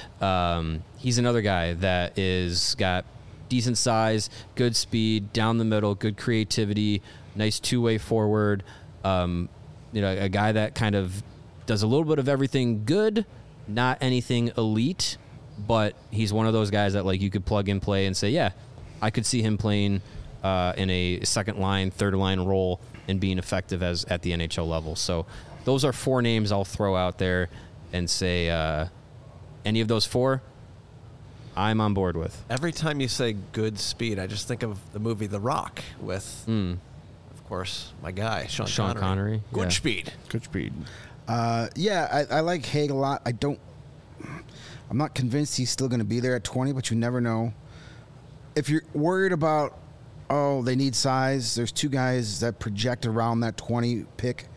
Um, he's another guy that is got decent size, good speed, down the middle, good creativity, nice two-way forward. Um, you know, a guy that kind of does a little bit of everything good, not anything elite, but he's one of those guys that like you could plug and play and say, yeah, I could see him playing uh, in a second line, third line role and being effective as at the N H L level. So those are four names I'll throw out there and say uh, any of those four, I'm on board with. Every time you say good speed, I just think of the movie The Rock with, Mm. of course, my guy, Sean, Sean Connery. Connery, Good yeah. speed. Good speed. Uh, yeah, I, I like Haig a lot. I don't. I'm not convinced he's still going to be there at twenty, but you never know. If you're worried about, oh, they need size, there's two guys that project around that twenty pick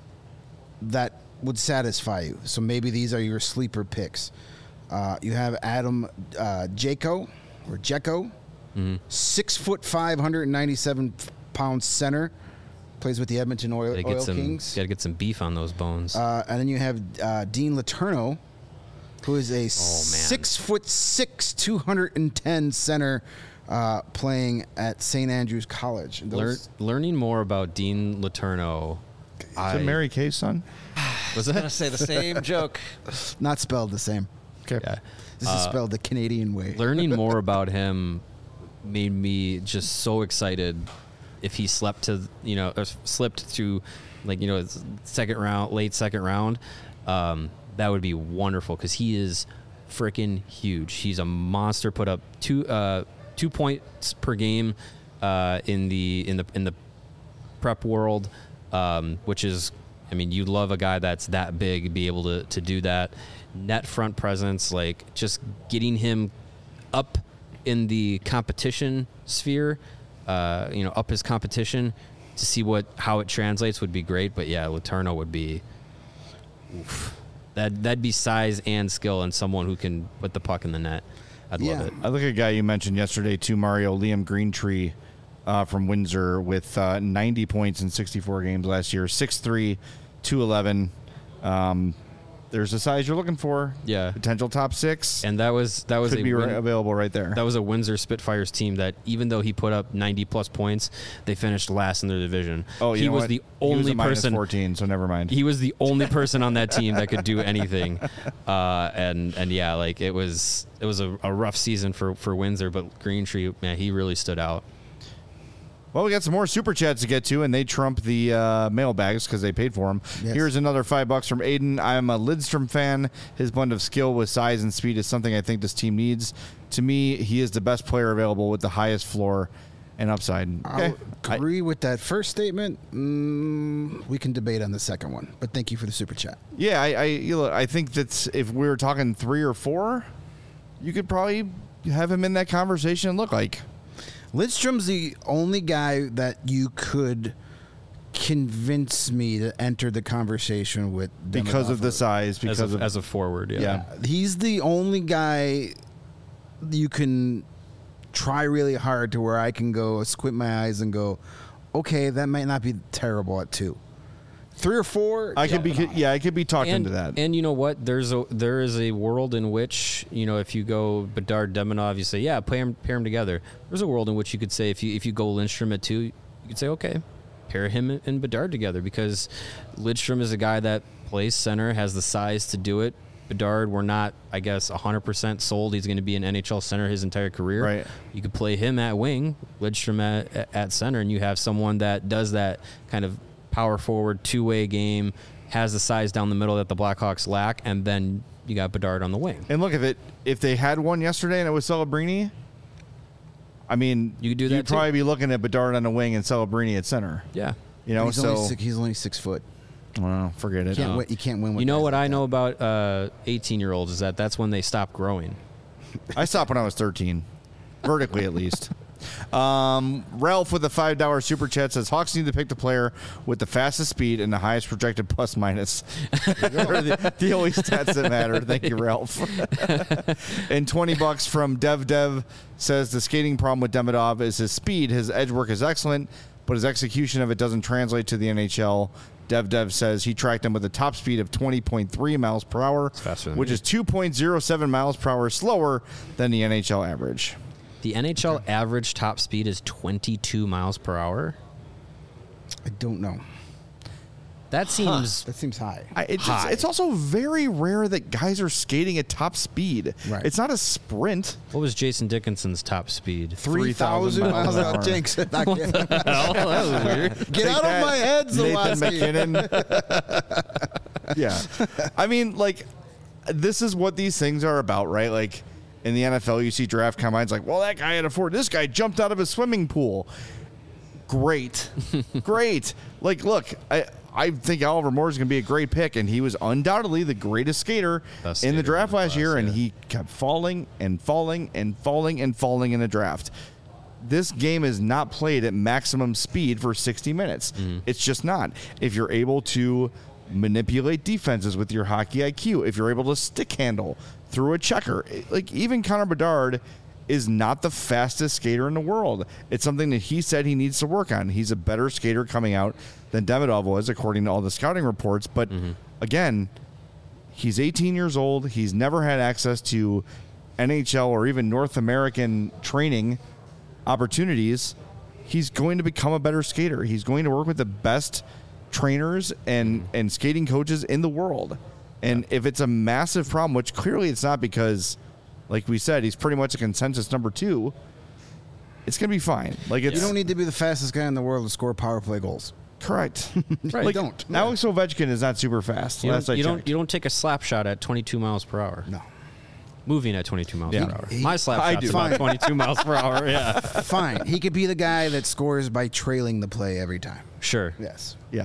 that would satisfy you. So maybe these are your sleeper picks. Uh, you have Adam uh, Jeko or Jeko, Mm-hmm. six foot five, one hundred ninety-seven pound center, plays with the Edmonton Oil, Gotta Oil get some, Kings. gotta get some beef on those bones. Uh, and then you have uh, Dean Letourneau, who is a Oh, six foot six, two hundred ten center, uh, playing at Saint Andrews College. And Lear- those- learning more about Dean Letourneau. Is I, it Mary Kay's son? was I'm going to that? say the same joke. not spelled the same. Okay. Yeah. This is spelled the Canadian way. Learning more about him made me just so excited. If he slept to, you know, or slipped to, like, you know, second round, late second round, um, that would be wonderful because he is freaking huge. He's a monster. Put up two uh, two points per game uh, in the in the in the prep world, um, which is, I mean, you love a guy that's that big, be able to to do that. Net front presence, like just getting him up in the competition sphere, uh, you know, up his competition to see what how it translates would be great. But yeah, Letourneau would be oof. that that'd be size and skill and someone who can put the puck in the net. I'd Yeah. love it. I look at a guy you mentioned yesterday too, Mario, Liam Greentree uh, from Windsor with uh, ninety points in sixty-four games last year, six three, two eleven. Um, there's the size you're looking for. Yeah. Potential top six. And that was that was could a be win- right, available right there. That was a Windsor Spitfires team that, even though he put up ninety plus points, they finished last in their division. oh, you he know was what? the He was only a minus person. fourteen, so never mind. He was the only person on that team that could do anything, uh, and and yeah, like it was it was a, a rough season for for Windsor, but Greentree, man, he really stood out. Well, we got some more super chats to get to, and they trump the uh, mailbags because they paid for them. Yes. Here's another five bucks from Aiden. I'm a Lidstrom fan. His blend of skill with size and speed is something I think this team needs. To me, he is the best player available with the highest floor and upside. I Okay. would agree with that first statement. Mm, we can debate on the second one, but thank you for the super chat. Yeah, I I, you know, I think that's if we were talking three or four, you could probably have him in that conversation and look like. Lidstrom's the only guy that you could convince me to enter the conversation with Because of the Demidov. size, because as a, of as a forward, yeah. Yeah. He's the only guy you can try really hard to where I can go squint my eyes and go, okay, that might not be terrible at two. Three or four, I could be yeah, I could be talked And, into that. and you know what? There's a there is a world in which, you know, if you go Bedard Demonov, you say, yeah, pair him pair him together. There's a world in which you could say if you if you go Lindstrom at two, you could say, okay, pair him and Bedard together because Lidstrom is a guy that plays center, has the size to do it, Bedard were not, I guess, one hundred percent sold he's going to be an N H L center his entire career, Right. you could play him at wing, Lidstrom at, at center, and you have someone that does that kind of power forward two-way game, has the size down the middle that the Blackhawks lack, and then you got Bedard on the wing. And look, if it if they had one yesterday and it was Celebrini, I mean, You could do that you'd too. probably be looking at Bedard on the wing and Celebrini at center. Yeah. You know, he's, so only six, he's only six foot. well, forget it. You can't, No. win, you can't win with You know guys what like I that. know about uh, eighteen-year-olds is that that's when they stop growing. I stopped when I was thirteen, vertically at least. Um, Ralph with the five dollar super chat says Hawks need to pick the player with the fastest speed and the highest projected plus minus. the, the only stats that matter. Thank you, Ralph. And twenty bucks from Dev Dev says the skating problem with Demidov is his speed. His edge work is excellent, but his execution of it doesn't translate to the N H L. Dev Dev says he tracked him with a top speed of twenty point three miles per hour, faster than which me. is two point oh seven miles per hour slower than the N H L average. The N H L average top speed is twenty-two miles per hour. I don't know. That seems That seems high. I, it's, High. it's also very rare that guys are skating at top speed. Right. It's not a sprint. What was Jason Dickinson's top speed? three thousand miles an hour. Jinx. Not Oh, that was weird. Get Take out that, of my head, Nathan Zawaski. McKinnon. Yeah. I mean, like, this is what these things are about, right? Like, in the N F L, you see draft combines like, well, that guy had a four. This guy jumped out of a swimming pool. Great. Great. Like, look, I, I think Oliver Moore is going to be a great pick, and he was undoubtedly the greatest skater Best in the skater draft in the last class, year, and yeah. he kept falling and falling and falling and falling in the draft. This game is not played at maximum speed for sixty minutes. Mm-hmm. It's just not. If you're able to manipulate defenses with your hockey I Q, if you're able to stick handle through a checker, like even Connor Bedard is not the fastest skater in the world. It's something that he said he needs to work on. He's a better skater coming out than Demidov was, according to all the scouting reports. But Mm-hmm. again, he's eighteen years old. He's never had access to N H L or even North American training opportunities. He's going to become a better skater. He's going to work with the best trainers and, and skating coaches in the world. And if it's a massive problem, which clearly it's not because, like we said, he's pretty much a consensus number two, it's going to be fine. Like it's You don't need to be the fastest guy in the world to score power play goals. correct. Right. Like, You don't. Alex Ovechkin is not super fast. You last don't, I you don't checked. you don't take a slap shot at twenty-two miles per hour. No. Moving at twenty-two miles Yeah. per hour. He- My slap I shot's do. about Fine. twenty-two miles per hour. Yeah. Fine. He could be the guy that scores by trailing the play every time. Sure. Yes. Yeah.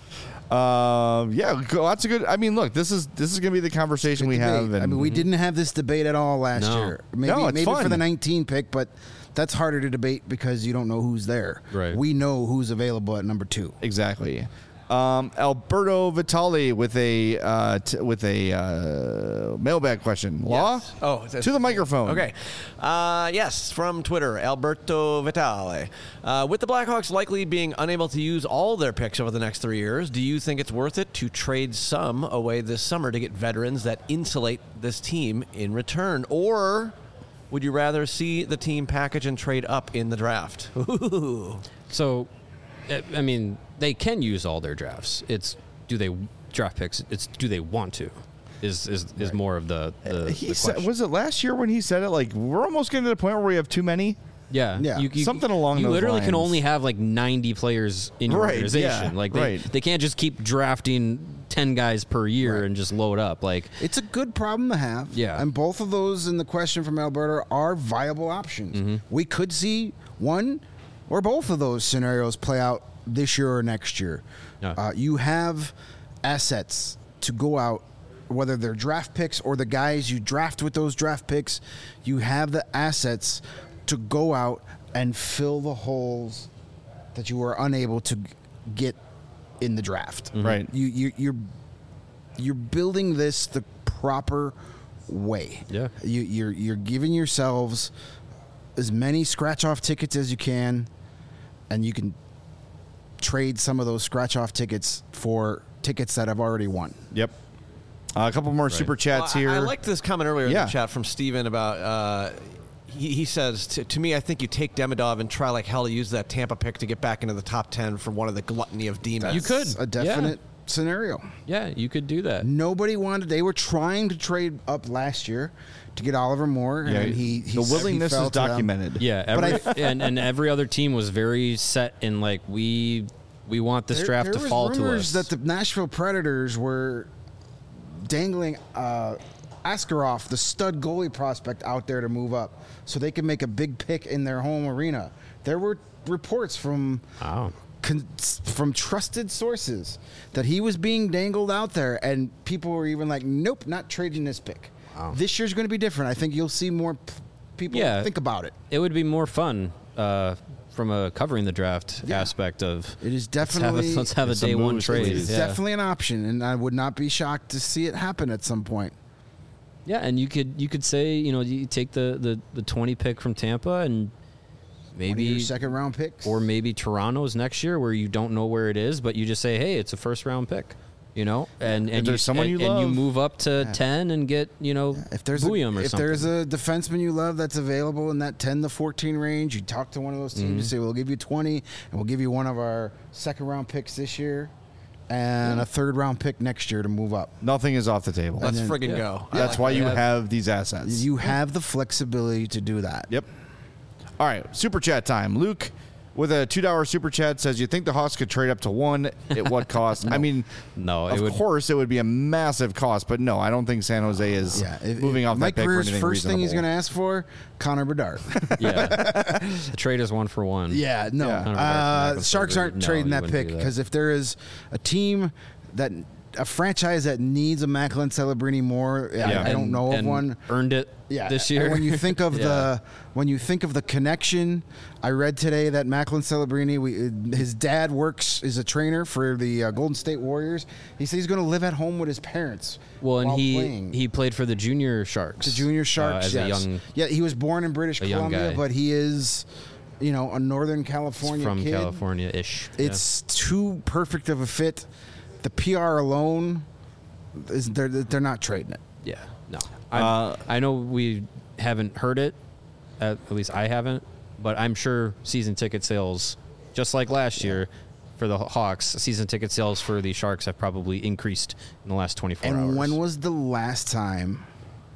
Uh, yeah, go- lots of good. I mean, look, this is this is going to be the conversation we Debate. have. And I mean, we didn't have this debate at all last No. year. Maybe, No, it's maybe fun. for the nineteen pick, but that's harder to debate because you don't know who's there. Right. We know who's available at number two. Exactly. Um, Alberto Vitali with a uh, t- with a uh, mailbag question. Law? Yes. Oh, it's- to the microphone. Okay. Uh, yes, from Twitter, Alberto Vitale. Uh, with the Blackhawks likely being unable to use all their picks over the next three years, do you think it's worth it to trade some away this summer to get veterans that insulate this team in return? Or would you rather see the team package and trade up in the draft? Ooh. So, I- I mean, they can use all their drafts. It's do they draft picks? It's do they want to? Is is, is more of the the, He the said, question. was it last year when he said it? Like, we're almost getting to the point where we have too many. Yeah, Yeah. Something along You those literally can lines. only have like ninety players in your Right, organization. yeah, like they, right. they can't just keep drafting ten guys per year Right. and just load up. Like It's a good problem to have. Yeah. And both of those in the question from Alberta are viable options. Mm-hmm. We could see one or both of those scenarios play out this year or next year. Yeah. Uh, you have assets to go out, whether they're draft picks or the guys you draft with those draft picks, you have the assets to go out and fill the holes that you were unable to g- get in the draft. Right. You, you you're you're building this the proper way. Yeah. You, you're you're giving yourselves as many scratch off tickets as you can, and you can trade some of those scratch off tickets for tickets that have already won. Yep. Uh, a couple more super chats Well, here. I, I liked this comment earlier Yeah. in the chat from Steven about. Uh, he, he says to, to me, I think you take Demidov and try like hell to use that Tampa pick to get back into the top ten for one of the gluttony of demons. You could. A definite scenario. Yeah, you could do that. Nobody wanted. They were trying to trade up last year to get Oliver Moore, Yeah, and he, he the willingness he fell is to them. documented. Yeah, But every, and and every other team was very set in like we we want this There- draft there to was fall to rumors us. that the Nashville Predators were dangling uh, Askarov, the stud goalie prospect, out there to move up, so they could make a big pick in their home arena. There were reports from Wow. con- from trusted sources that he was being dangled out there, and people were even like, "Nope, not trading this pick." Wow. This year's going to be different. I think you'll see more p- people Yeah. think about it. It would be more fun uh, from a covering the draft Yeah. aspect of It is let's have a, definitely let's have a There's some day one moves, trade. it's yeah. definitely an option, and I would not be shocked to see it happen at some point. Yeah, and you could you could say, you know, you take the, the, the twenty pick from Tampa and One of your maybe second round picks, or maybe Toronto's next year where you don't know where it is, but you just say, hey, it's a first round pick, you know, and and there's you, someone and, you and you love. move up to ten and get, you know, if there's a, Bouillon or if something. there's a defenseman you love that's available in that ten to fourteen range, you talk to one of those teams Mm-hmm. and say, "We'll give you twenty, and we'll give you one of our second round picks this year, and a third round pick next year to move up." Nothing is off the table. Let's then- friggin' yeah. go. That's why you Yeah. have these assets. You have the flexibility to do that. Yep. All right, super chat time. Luke, with a two dollar super chat, says, "You think the Hawks could trade up to one? At what cost?" I mean, No, it of would- course it would be a massive cost, but no, I don't think San Jose is Yeah, if- moving if off Mike that pick for Greer's anything first thing he's going reasonable. to ask for, Connor Bedard. yeah. The trade is one for one. Yeah, no. Yeah. Uh, Sharks aren't No, trading you that wouldn't pick do that. because if there is a team that a franchise that needs a Macklin Celebrini more, I, Yeah. I don't And- know of and one. Earned it Yeah, this and year. when you think of Yeah. the when you think of the connection, I read today that Macklin Celebrini, we, his dad works is a trainer for the uh, Golden State Warriors. He said he's going to live at home with his parents. Well, and while he playing. he played for the junior Sharks. The Junior uh, Sharks, as yes. a young yeah, he was born in British a young Columbia, guy. but he is, you know, a Northern California from kid. California-ish. It's too perfect of a fit. The P R alone is they're they're not trading it. yeah. yeah. No, I Uh, I know we haven't heard it. At, at least I haven't. But I'm sure season ticket sales, just like last year, for the Hawks, season ticket sales for the Sharks have probably increased in the last twenty-four And hours. when was the last time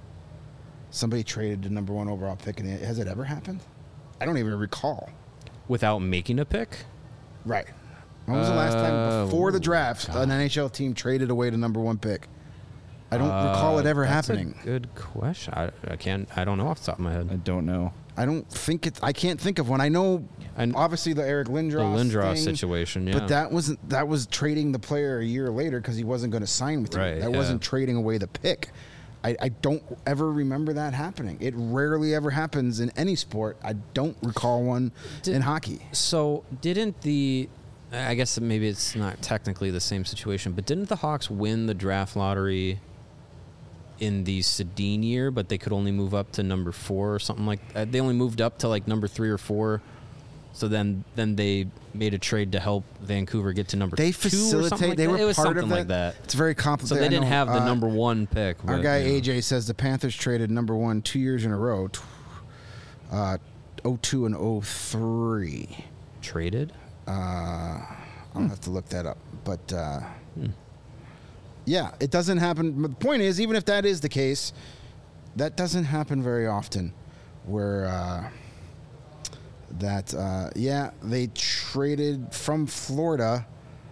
somebody traded the number one overall pick? And has it ever happened? I don't even recall. Without making a pick? Right. When was the last time Uh, before the draft an N H L team traded away the number one pick? I don't recall it ever Uh, That's happening. A good question. I, I can't. I don't know off the top of my I head. don't know. I don't think it. I can't think of one. I know, And obviously the Eric Lindros, the Lindros thing, situation, yeah. but that wasn't. That was trading the player a year later because he wasn't going to sign with you. Right, That yeah. wasn't trading away the pick. I, I don't ever remember that happening. It rarely ever happens in any sport. I don't recall one Did- in hockey. So didn't the? I guess maybe it's not technically the same situation, but didn't the Hawks win the draft lottery in the Sedin year? But they could only move up to number four or something like. Uh, they only moved up to like number three or four. So then, then they made a trade to help Vancouver get to number They two or something facilitate. like they that. were It was part something of like that. It's very So complicated. they I didn't know, have the uh, number one pick. Our but, guy you know. A J says the Panthers traded number one two years in a row, tw- uh, oh two and oh three. traded. Uh, I'll have to look that up. But uh, yeah, it doesn't happen. But the point is, even if that is the case, that doesn't happen very often. Where uh, that, uh, yeah, they traded from Florida.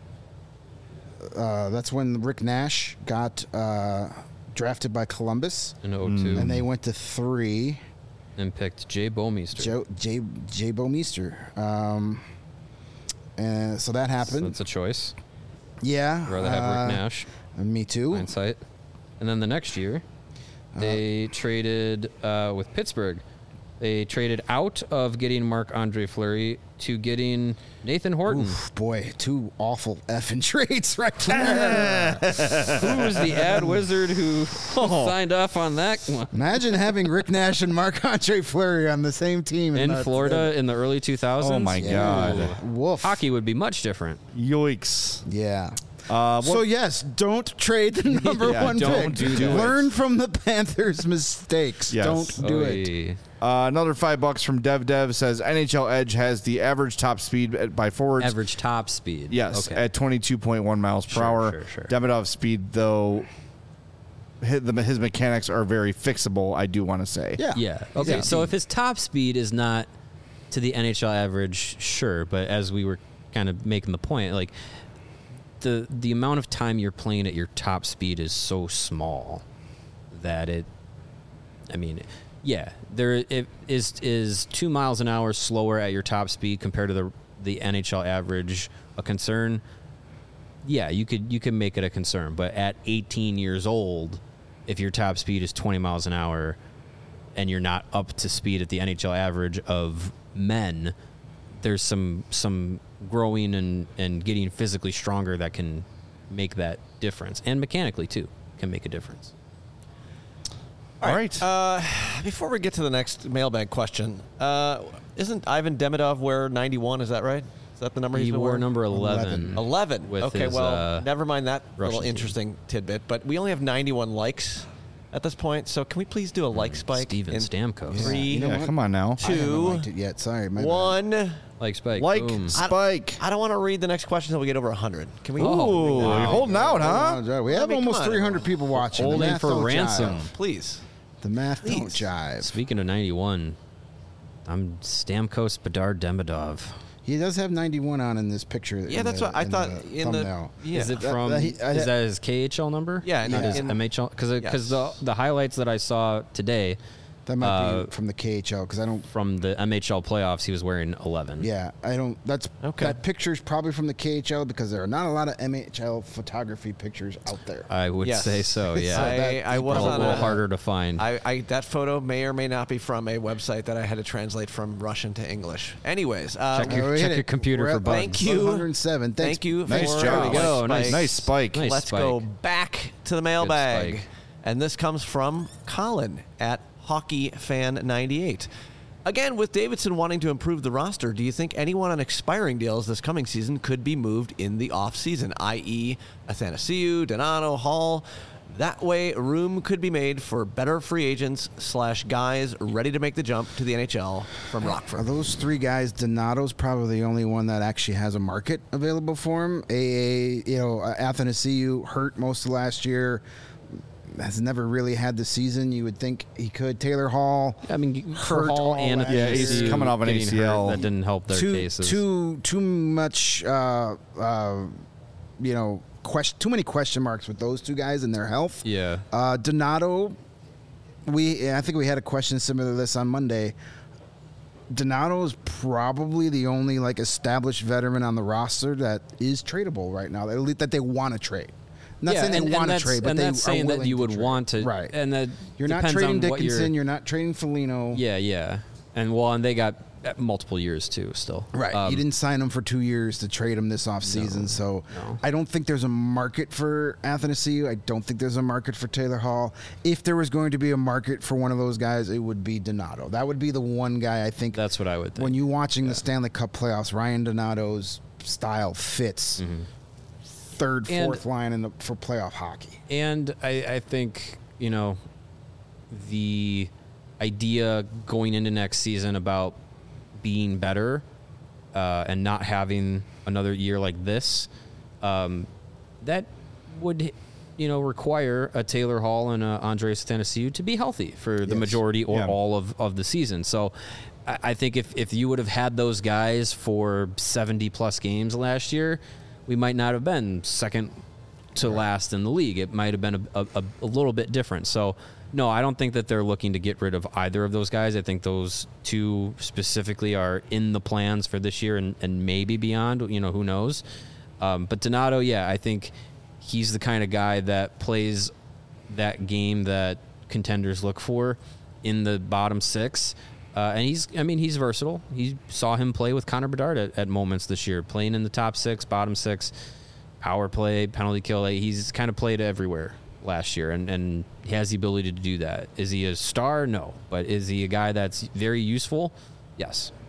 Uh, that's when Rick Nash got uh, drafted by Columbus, In oh two, and they went to three. and picked Jay Bomeister. Joe, Jay Jay Bomeister. Um, and so that So happened. that's a choice. Yeah. I'd rather have uh, Rick Nash. Me too. Hindsight. And then the next year, they traded uh, with Pittsburgh. They traded out of getting Marc-Andre Fleury to getting Nathan Horton. Oof, boy, two awful effing trades right there. Who was the ad wizard who signed off on that one? Imagine having Rick Nash and Marc-Andre Fleury on the same team. In the- Florida in the early two thousands? Oh, my God. Woof. Hockey would be much different. Yikes. Yeah. Uh, So yes, don't trade the number Yeah, one don't pick. do that. Learn from the Panthers' mistakes. Yes. Don't do it. Oy. Uh, another five bucks from Dev Dev says N H L Edge has the average top speed at- by forwards. Average top speed. Yes, Okay. at twenty-two point one miles per Sure, hour. sure, sure. Demidov's speed, though, his, the, his mechanics are very fixable, I do want to say. Yeah. Yeah. Okay. Yeah. So if his top speed is not to the N H L average, sure. But as we were kind of making the point, like the the amount of time you're playing at your top speed is so small that it. I mean, yeah, there it is is two miles an hour slower at your top speed compared to the the N H L average a concern. Yeah, you could you could make it a concern, but at eighteen years old, if your top speed is twenty miles an hour and you're not up to speed at the N H L average of men, there's some some growing and, and getting physically stronger that can make that difference, and mechanically too can make a difference. All right. Uh, before we get to the next mailbag question, uh, isn't Ivan Demidov wear ninety-one? Is that right? Is that the number He he's been wore wearing? number eleven. eleven. With Okay, his, well, uh, never mind that Russian little team. interesting tidbit. But we only have ninety-one likes at this point, so can we please do a like spike? Steven in Stamkos. Three, You know yeah, what? come on now. I haven't two, liked it yet. Sorry, my bad. one. Like Spike. Like Boom. Spike. I don't want to read the next question until we get over one hundred. Can we? Ooh, wow. you're holding out, huh? Uh, We have I mean, come almost on. three hundred people watching. The Holding math for don't ransom. jive. Please. The math don't Please. jive. Speaking of ninety-one, I'm Stamkos Bedard Demidov. He does have ninety-one on in this picture. Yeah, in that's the- what I in thought the in the. thumbnail. Yeah. Is it That- from? that he- I- is that his K H L number? Yeah, and- not his and- M H L. Because because Yes. the the highlights that I saw today That might Uh, be from the K H L because I don't. from the M H L playoffs, he was wearing eleven. Yeah, I don't. That's Okay. That picture's probably from the K H L because there are not a lot of M H L photography pictures out there. I would Yes. say so. Yeah, I, that- I was a on little a, harder to find. I, I that photo may or may not be from a website that I had to translate from Russian to English. Anyways, uh, Check your- Uh, we check hit your it. computer We're for at bugs. Thank you. one hundred seven. Thanks. Thank you. Nice for job. the There we go. like Nice- spikes. Nice spike. Nice Let's spike. go back to the mailbag, spike. and this comes from Colin at Hockey Fan ninety-eight. Again, with Davidson wanting to improve the roster, do you think anyone on expiring deals this coming season could be moved in the offseason, that is. Athanasiou, Donato, Hall? That way, room could be made for better free agents slash guys ready to make the jump to the N H L from Are Rockford. those three guys? Donato's probably the only one that actually has a market available for him. A, A you know, uh, Athanasiou hurt most of last year. Has never really had the season you would think he could. Taylor Hall. I mean, for hurt Hall all and last Yeah, he's Athanasiou coming off an getting A C L. hurt, that didn't help their too, cases. Too too much, uh, uh, you know, question, too many question marks with those two guys and their health. Yeah. Uh, Donato, we I think we had a question similar to this on Monday. Donato is probably the only like established veteran on the roster that is tradable right now. At least that they want to trade. I'm not yeah, saying they and, and want to that's- trade, but and they that's are saying that willing you to would trade. want to, Right. And that You're not depends trading on what Dickinson. you're- You're not trading Foligno. Yeah, yeah, and well, and they got uh, multiple years too. Still, Right. Um, you didn't sign him for two years to trade him this offseason. so no. I don't think there's a market for Athanasiou. I don't think there's a market for Taylor Hall. If there was going to be a market for one of those guys, it would be Donato. That would be the one guy I think. That's what I would think. When you're watching the Stanley Cup playoffs, Ryan Donato's style fits third, Mm-hmm. And- fourth line in the, for playoff hockey. And I, I think, you know, the idea going into next season about being better uh, and not having another year like this, um, that would, you know, require a Taylor Hall and a Andres Athanasiou to be healthy for the Yes. majority or Yeah. all of, of the season. So I, I think if, if you would have had those guys for seventy plus games last year, we might not have been second to last in the league. It might have been a, a, a little bit different. So, no, I don't think that they're looking to get rid of either of those guys. I think those two specifically are in the plans for this year and, and maybe beyond. You know, who knows? Um, but Donato, yeah, I think he's the kind of guy that plays that game that contenders look for in the bottom six. Uh, and he's, I mean, he's versatile. He saw him play with Connor Bedard at, at moments this year, playing in the top six, bottom six, power play, penalty kill. He's kind of played everywhere last year, and, and he has the ability to do that. Is he a star? No. But is he a guy that's very useful? Yes.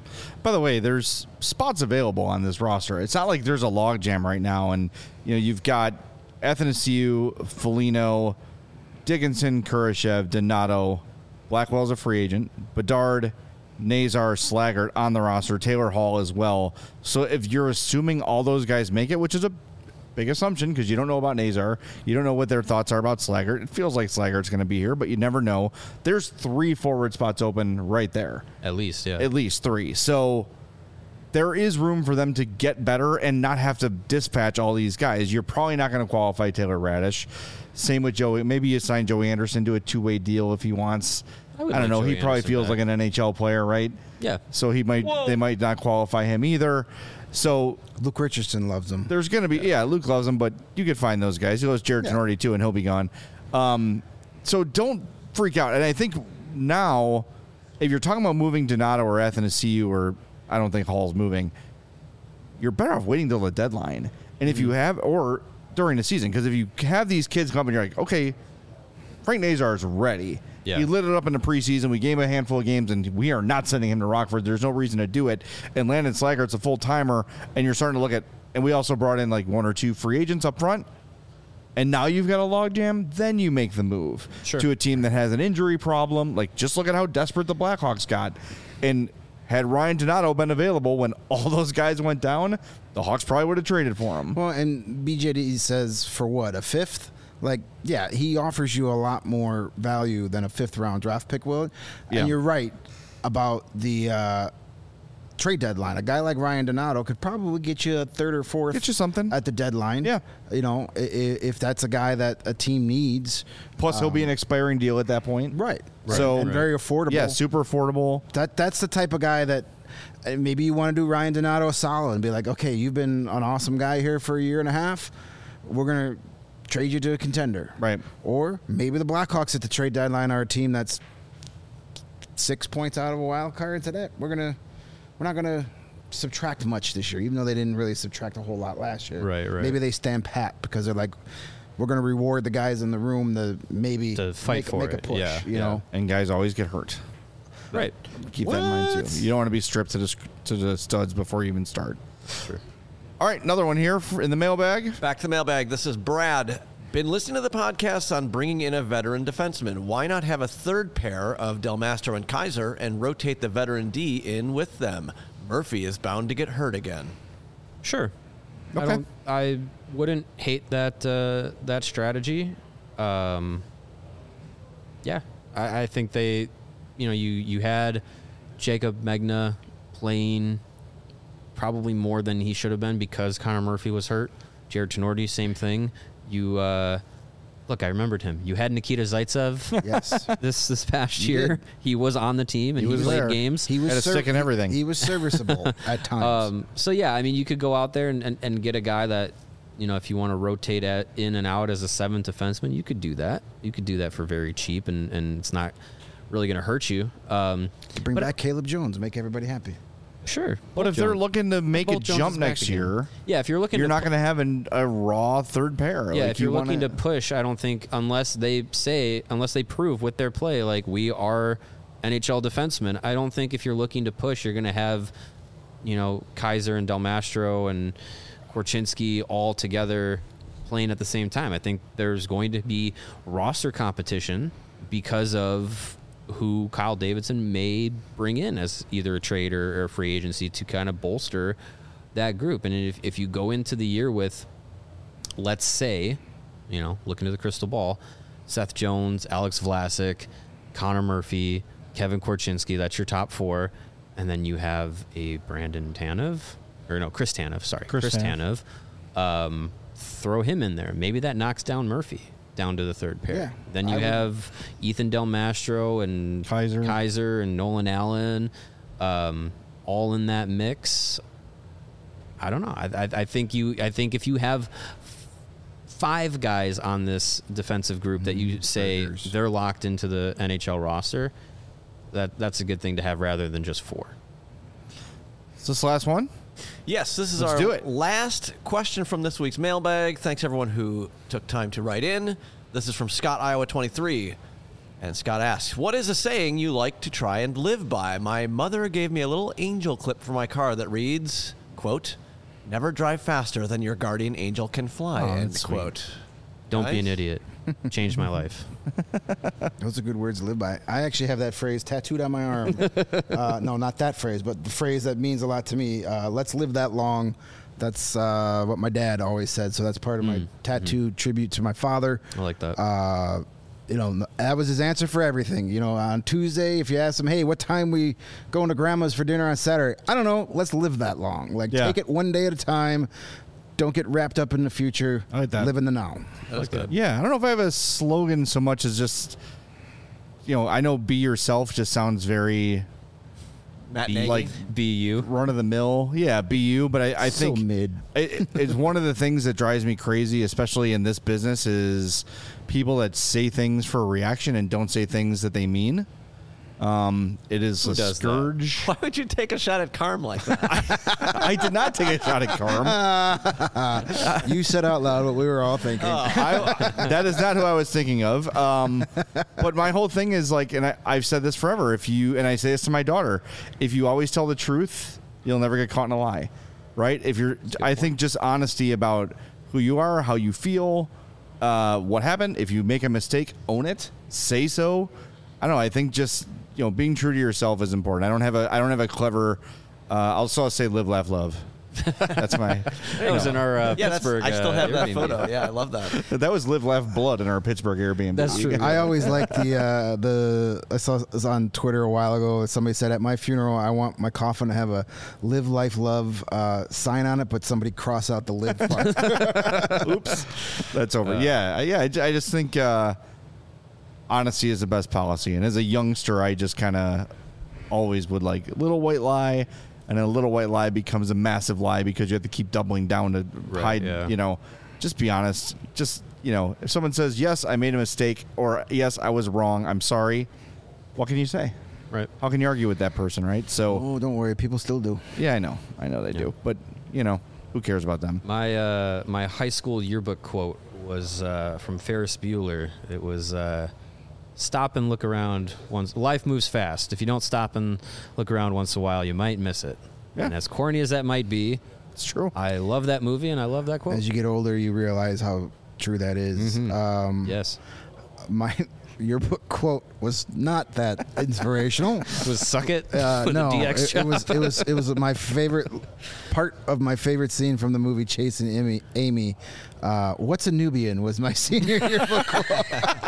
By the way, there's spots available on this roster. It's not like there's a logjam right now, and you know you've got Athanasiou, Foligno, Dickinson, Kurashev, Donato, Blackwell's a free agent, Bedard, Nazar, Slaggert on the roster, Taylor Hall as well. So if you're assuming all those guys make it, which is a big assumption because you don't know about Nazar, you don't know what their thoughts are about Slaggert. It feels like Slaggert's going to be here, but you never know. There's three forward spots open right there. At least, yeah. At least three. So there is room for them to get better and not have to dispatch all these guys. You're probably not going to qualify Taylor Radish. Same with Joey. Maybe you sign Joey Anderson to a two-way deal if he wants. I, I would don't like know. Joey he probably Anderson feels back. like an N H L player, right? Yeah. So he might. Whoa. They might not qualify him either. So Luke Richardson loves him. there's going to be, yeah, Luke loves him, but you could find those guys. He loves Jared Yeah. Tenorti too, and he'll be gone. Um, so don't freak out. And I think now, if you're talking about moving Donato or Athanasiou, or I don't think Hall's moving, you're better off waiting till the deadline. And if you have, or during the season, because if you have these kids come and you're like, okay, Frank Nazar is ready. Yeah. He lit it up in the preseason. We gave him a handful of games, and we are not sending him to Rockford. There's no reason to do it. And Landon Slaggert's a full-timer, and you're starting to look at, and we also brought in like one or two free agents up front, and now you've got a logjam, then you make the move Sure. to a team that has an injury problem. Like, just look at how desperate the Blackhawks got. And had Ryan Donato been available when all those guys went down, the Hawks probably would have traded for him. Well, and B J D says for what, a fifth? Like, yeah, he offers you a lot more value than a fifth round draft pick will. Yeah. And you're right about the uh, trade deadline. A guy like Ryan Donato could probably get you a third or fourth. Get you something. at the deadline. Yeah. You know, i- i- if that's a guy that a team needs. Plus, he'll be an expiring deal at that point. Right. So- and very affordable. Yeah, super affordable. That that's the type of guy that uh, maybe you want to do Ryan Donato a solid and be like, okay, you've been an awesome guy here for a year and a half. We're gonna trade you to a contender, Right. Or maybe the Blackhawks at the trade deadline are a team that's six points out of a wild card. To that, we're gonna we're not gonna subtract much this year, even though they didn't really subtract a whole lot last year. Right, right. Maybe they stand pat because they're like, we're gonna reward the guys in the room to maybe To fight make, for make a it. push. Yeah, you yeah. know. And guys always get hurt. Right. Keep that in mind What? too. You don't want to be stripped to the to the studs before you even start. Sure. All right, another one here for, in the mailbag. Back to the mailbag. This is Brad. Been listening to the podcast on bringing in a veteran defenseman. Why not have a third pair of Del Mastro and Kaiser and rotate the veteran D in with them? Murphy is bound to get hurt again. Sure. I Okay. don't. I wouldn't hate that uh, that strategy. Um, yeah, I, I think they, you know, you you had Jacob Megna playing probably more than he should have been because Connor Murphy was hurt. Jared Tenorti, same thing. You uh, look, I remembered him. You had Nikita Zaitsev. Yes. This this past You year, did. he was on the team and He he, was played there. games. He was Had a stick and everything. He was serviceable at times. Um, so yeah, I mean, you could go out there and, and, and get a guy that, you know, if you want to rotate at in and out as a seventh defenseman, you could do that. You could do that for very cheap, and, and it's not really going to hurt you. Um, Bring but- back Caleb Jones, make everybody happy. sure. But if they're looking to make a Both Jones jump is back next again. year, yeah, if you're looking, you're to not going to have an, a raw third pair. Yeah, Like, if you're you wanna- looking to push, I don't think unless they say, unless they prove with their play, like we are N H L defensemen, I don't think if you're looking to push, you're going to have, you know, Kaiser and Del Mastro and Korchinski all together playing at the same time. I think there's going to be roster competition because of who Kyle Davidson may bring in as either a trade or, or free agency to kind of bolster that group. And if, if you go into the year with, let's say, you know, look into the crystal ball, Seth Jones, Alex Vlasic, Connor Murphy, Kevin Korchinski, that's your top four. And then you have a Brandon Tanev, or no, Chris Tanev, sorry, Chris Chris, Tanev. Tanev. Um, throw him in there. Maybe that knocks down Murphy down to the third pair. Yeah, then you I would- have Ethan Del Mastro and Kaiser. Kaiser and Nolan Allen, um, all in that mix. I don't know. I, I, I think you. I think if you have five guys on this defensive group that you say Burgers. they're locked into the N H L roster, that that's a good thing to have rather than just four. Is this the last one? Yes, this is Let's our do it. last question from this week's mailbag. Thanks everyone who took time to write in. This is from Scott, Iowa twenty-three. And Scott asks, what is a saying you like to try and live by? My mother gave me a little angel clip for my car that reads, quote, never drive faster than your guardian angel can fly, Oh, end that's sweet. quote. Don't be Nice. an idiot. Changed my life. Those are good words to live by. I actually have that phrase tattooed on my arm. uh, no, not that phrase, but the phrase that means a lot to me. Uh, Let's live that long. That's uh, what my dad always said. So that's part of my tattoo tribute to my father. I like that. Uh, you know, that was his answer for everything. You know, on Tuesday, if you ask him, hey, what time we going to grandma's for dinner on Saturday? I don't know. Let's live that long. Like, Yeah. take it one day at a time. Don't get wrapped up in the future. I like that. Live in the now. That was good. Yeah, I don't know if I have a slogan so much as just, you know, I know be yourself just sounds very Matt be, Nagy. like Be you. run of the mill. Yeah, be you. But I, I So think mid. it, it's one of the things that drives me crazy, especially in this business, is people that say things for a reaction and don't say things that they mean. Um, it is Who a does that? scourge. Why would you take a shot at Carm like that? I did not take a shot at Carm. You said out loud what we were all thinking. I, that is not who I was thinking of. Um, but my whole thing is like, and I, I've said this forever. If you, and I say this to my daughter, if you always tell the truth, you'll never get caught in a lie, right? If you're, I think just honesty about who you are, how you feel, uh, what happened. If you make a mistake, own it, say so. I don't know. I think just, you know, being true to yourself is important. I don't have a, I don't have a clever, uh, I'll also say live, laugh, love. That's my, That was in our uh, yeah, that's, Pittsburgh. I still uh, have that Airbnb. photo. Yeah, I love that. that was live, laugh, blood in our Pittsburgh Airbnb. That's true. I always like the uh, the I saw it was on Twitter a while ago. Somebody said at my funeral, I want my coffin to have a "Live Life Love" uh, sign on it, but somebody cross out the live part. Oops, that's over. yeah, yeah. I, I just think uh, honesty is the best policy. And as a youngster, I just kind of always would like little white lie, and then a little white lie becomes a massive lie because you have to keep doubling down to Right, hide. yeah. You know, just be honest. Just you know, if someone says yes, I made a mistake, or yes, I was wrong, I'm sorry. What can you say? Right. How can you argue with that person, right? So Oh, don't worry, people still do. yeah, I know, I know they do, but you know, who cares about them? My uh, my high school yearbook quote was uh, from Ferris Bueller. It was uh, stop and look around once. Life moves fast. If you don't stop and look around once in a while, you might miss it. Yeah. And as corny as that might be, It's true. I love that movie and I love that quote. As you get older, you realize how true that is. Mhm. Um, Yes. My your book quote was not that inspirational. Was suck it? Uh, with no, a D X it, it was it was it was my favorite part of my favorite scene from the movie Chasing Amy. Amy, uh, what's a Nubian was my senior yearbook quote.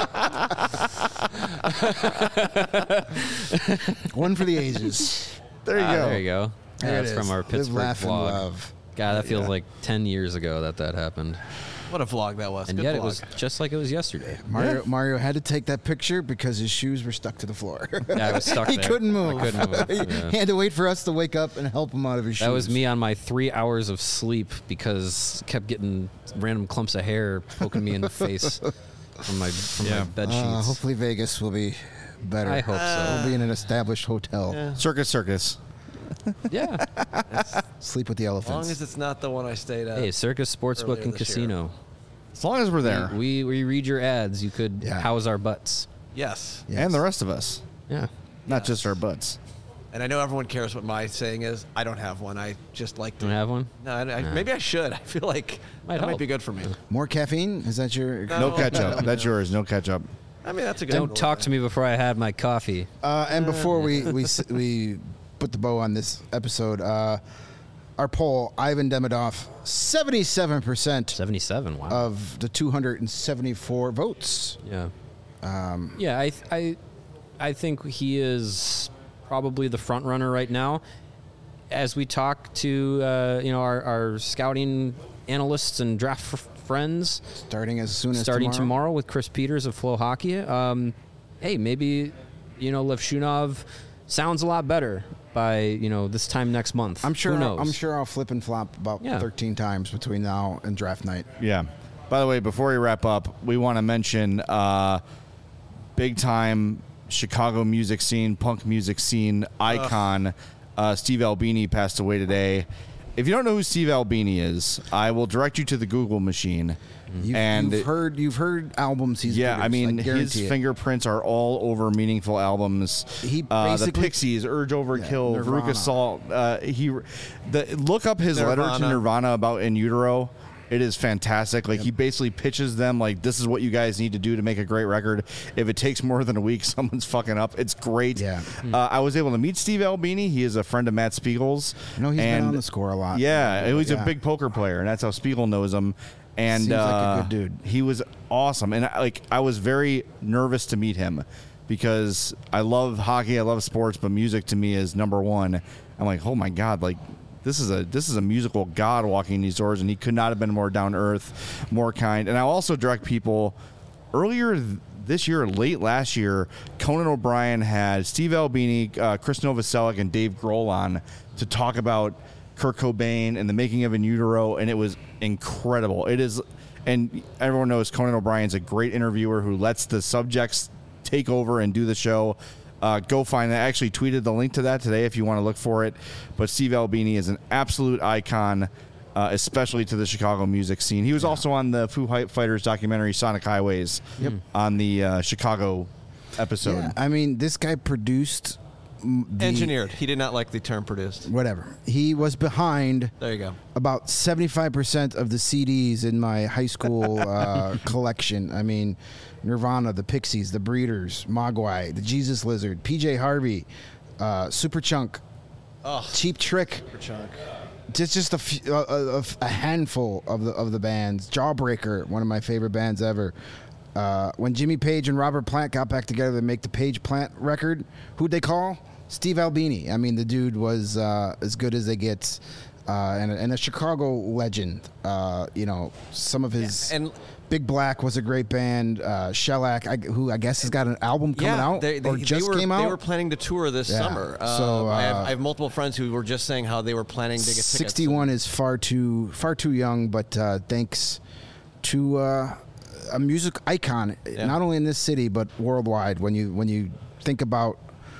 One for the ages. There you Ah, go. There you go. There That's it from is. our Live, Pittsburgh laugh, and vlog. love. God, that feels Yeah. like ten years ago that that happened. What a vlog that was. And Good yet vlog. it was just like it was yesterday. Mario Yeah. Mario had to take that picture because his shoes were stuck to the floor. Yeah, I was stuck he there. couldn't move. I couldn't move. he, Yeah. he had to wait for us to wake up and help him out of his shoes. That was me on my three hours of sleep because kept getting random clumps of hair poking me in the face from my from Yeah. my bed Uh, sheets. hopefully Vegas will be better. I hope so. We'll be in an established hotel. Yeah. Circus, circus. Yeah. Sleep with the As long elephants. as it's not the one I stayed at. Hey, Circus Sportsbook Earlier and this year. Casino. As long as we're there, We, we read your ads. You could Yeah. house our butts. Yes. Yes. and the rest of us, Yeah. not just our butts. And I know everyone cares what my saying is. I don't have one. I just like to. Don't have one? No, I, I, Nah. maybe I should. I feel like Might that might help. be good for me. More caffeine? Is that your? No. No ketchup. That's yours. No ketchup. I mean, that's a good Don't talk to me before I had my coffee. Uh, and before we we s- we put the bow on this episode, uh, our poll: Ivan Demidov, seventy-seven percent seventy-seven. Wow. of the two hundred seventy-four votes. yeah. Um, Yeah, I, th- I, I think he is probably the front runner right now. As we talk to uh, you know our, our scouting analysts and draft f- friends, starting as soon as starting tomorrow. tomorrow with Chris Peters of Flow Hockey. Um, hey, maybe you know Levshunov sounds a lot better by you know this time next month. I'm sure. Who knows? I'm sure I'll flip and flop about Yeah. thirteen times between now and draft night. Yeah. By the way, before we wrap up, we want to mention uh, big time Chicago music scene, punk music scene icon uh, Steve Albini passed away today. if you don't know who Steve Albini is, I will direct you to the Google machine. You've, and you've it- heard you've heard albums he's Yeah, I produced, mean, guarantee his it. fingerprints are all over meaningful albums. He uh, the basically- Pixies, Urge Overkill, Yeah, Veruca Nirvana. Salt. Uh, he, the look up his letter to Nirvana. Nirvana about In Utero. It is fantastic. Like he basically pitches them like, this is what you guys need to do to make a great record. If it takes more than a week, someone's fucking up. It's great. Yeah. Uh, I was able to meet Steve Albini. He is a friend of Matt Spiegel's. I know he's and been on the Score a lot. Yeah, he was Yeah. a big poker player, and that's how Spiegel knows him. And Seems like a uh, good dude. he was awesome, and I, like I was very nervous to meet him because I love hockey, I love sports, but music to me is number one. I'm like, oh my god, like this is a this is a musical god walking these doors, and he could not have been more down to earth, more kind. And I also direct people earlier th- this year, late last year, Conan O'Brien had Steve Albini, uh, Chris Novoselic, and Dave Grohl on to talk about Kurt Cobain and the making of In Utero, and it was incredible. It is, and everyone knows Conan O'Brien's a great interviewer who lets the subjects take over and do the show. Uh, go find that. I actually tweeted the link to that today if you want to look for it. But Steve Albini is an absolute icon, uh, especially to the Chicago music scene. He was also on the Foo Fighters documentary Sonic Highways on the uh, Chicago episode. Yeah, I mean, this guy produced mm, the, Engineered. He did not like the term produced. Whatever. He was behind There you go. about seventy-five percent of the C Ds in my high school uh, collection. I mean, Nirvana, the Pixies, the Breeders, Mogwai, the Jesus Lizard, P J Harvey, uh, Superchunk, Oh, Cheap Trick. chunk. Just just a, f- a, a- a handful of the of the bands. Jawbreaker, one of my favorite bands ever. Uh, when Jimmy Page and Robert Plant got back together to make the Page Plant record, who'd they call? Steve Albini. I mean, the dude was uh, as good as they get, uh, and, a, and a Chicago legend. Uh, you know, some of his And Big Black was a great band. Uh, Shellac, I, who I guess has got an album coming yeah, out they, they, or just they were, came out. They were planning to tour this Yeah. summer. Uh, So, I, have, uh, I have multiple friends who were just saying how they were planning to get tickets. sixty-one is far too far too young, but uh, thanks to uh, a music icon, Yeah. not only in this city but worldwide. When you when you think about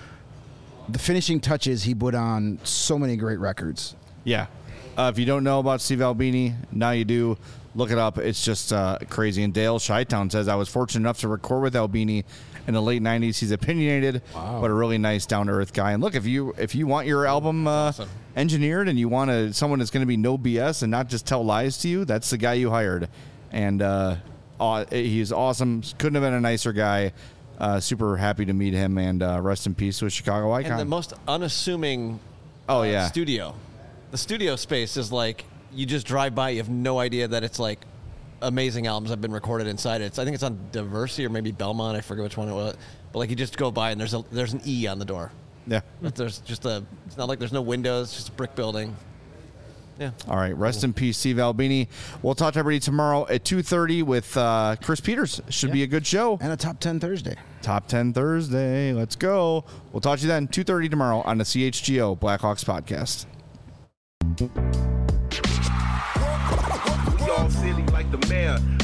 the finishing touches he put on so many great records. Yeah. Uh, if you don't know about Steve Albini, now you do. Look it up. It's just uh, crazy. And Dale Shytown says, I was fortunate enough to record with Albini in the late nineties. He's opinionated, but a really nice, down-to-earth guy. And look, if you if you want your album uh, awesome. engineered and you want to, someone that's going to be no B S and not just tell lies to you, that's the guy you hired. And uh, aw- he's awesome. Couldn't have been a nicer guy. Uh, super happy to meet him. And uh, rest in peace to a Chicago icon. And the most unassuming Oh, uh, yeah. studio. The studio space is like, you just drive by, you have no idea that it's like amazing albums have been recorded inside it. It's, I think it's on Diversity or maybe Belmont. I forget which one it was. But like you just go by and there's a there's an E on the door. yeah. But there's just a. It's not like there's no windows. It's just a brick building. Yeah. All right, rest in peace, Steve Albini. We'll talk to everybody tomorrow at two thirty with uh, Chris Peters. Should be a good show. And a top ten Thursday. Top ten Thursday. Let's go. We'll talk to you then, two thirty tomorrow on the C H G O Blackhawks podcast. We all silly like the mayor.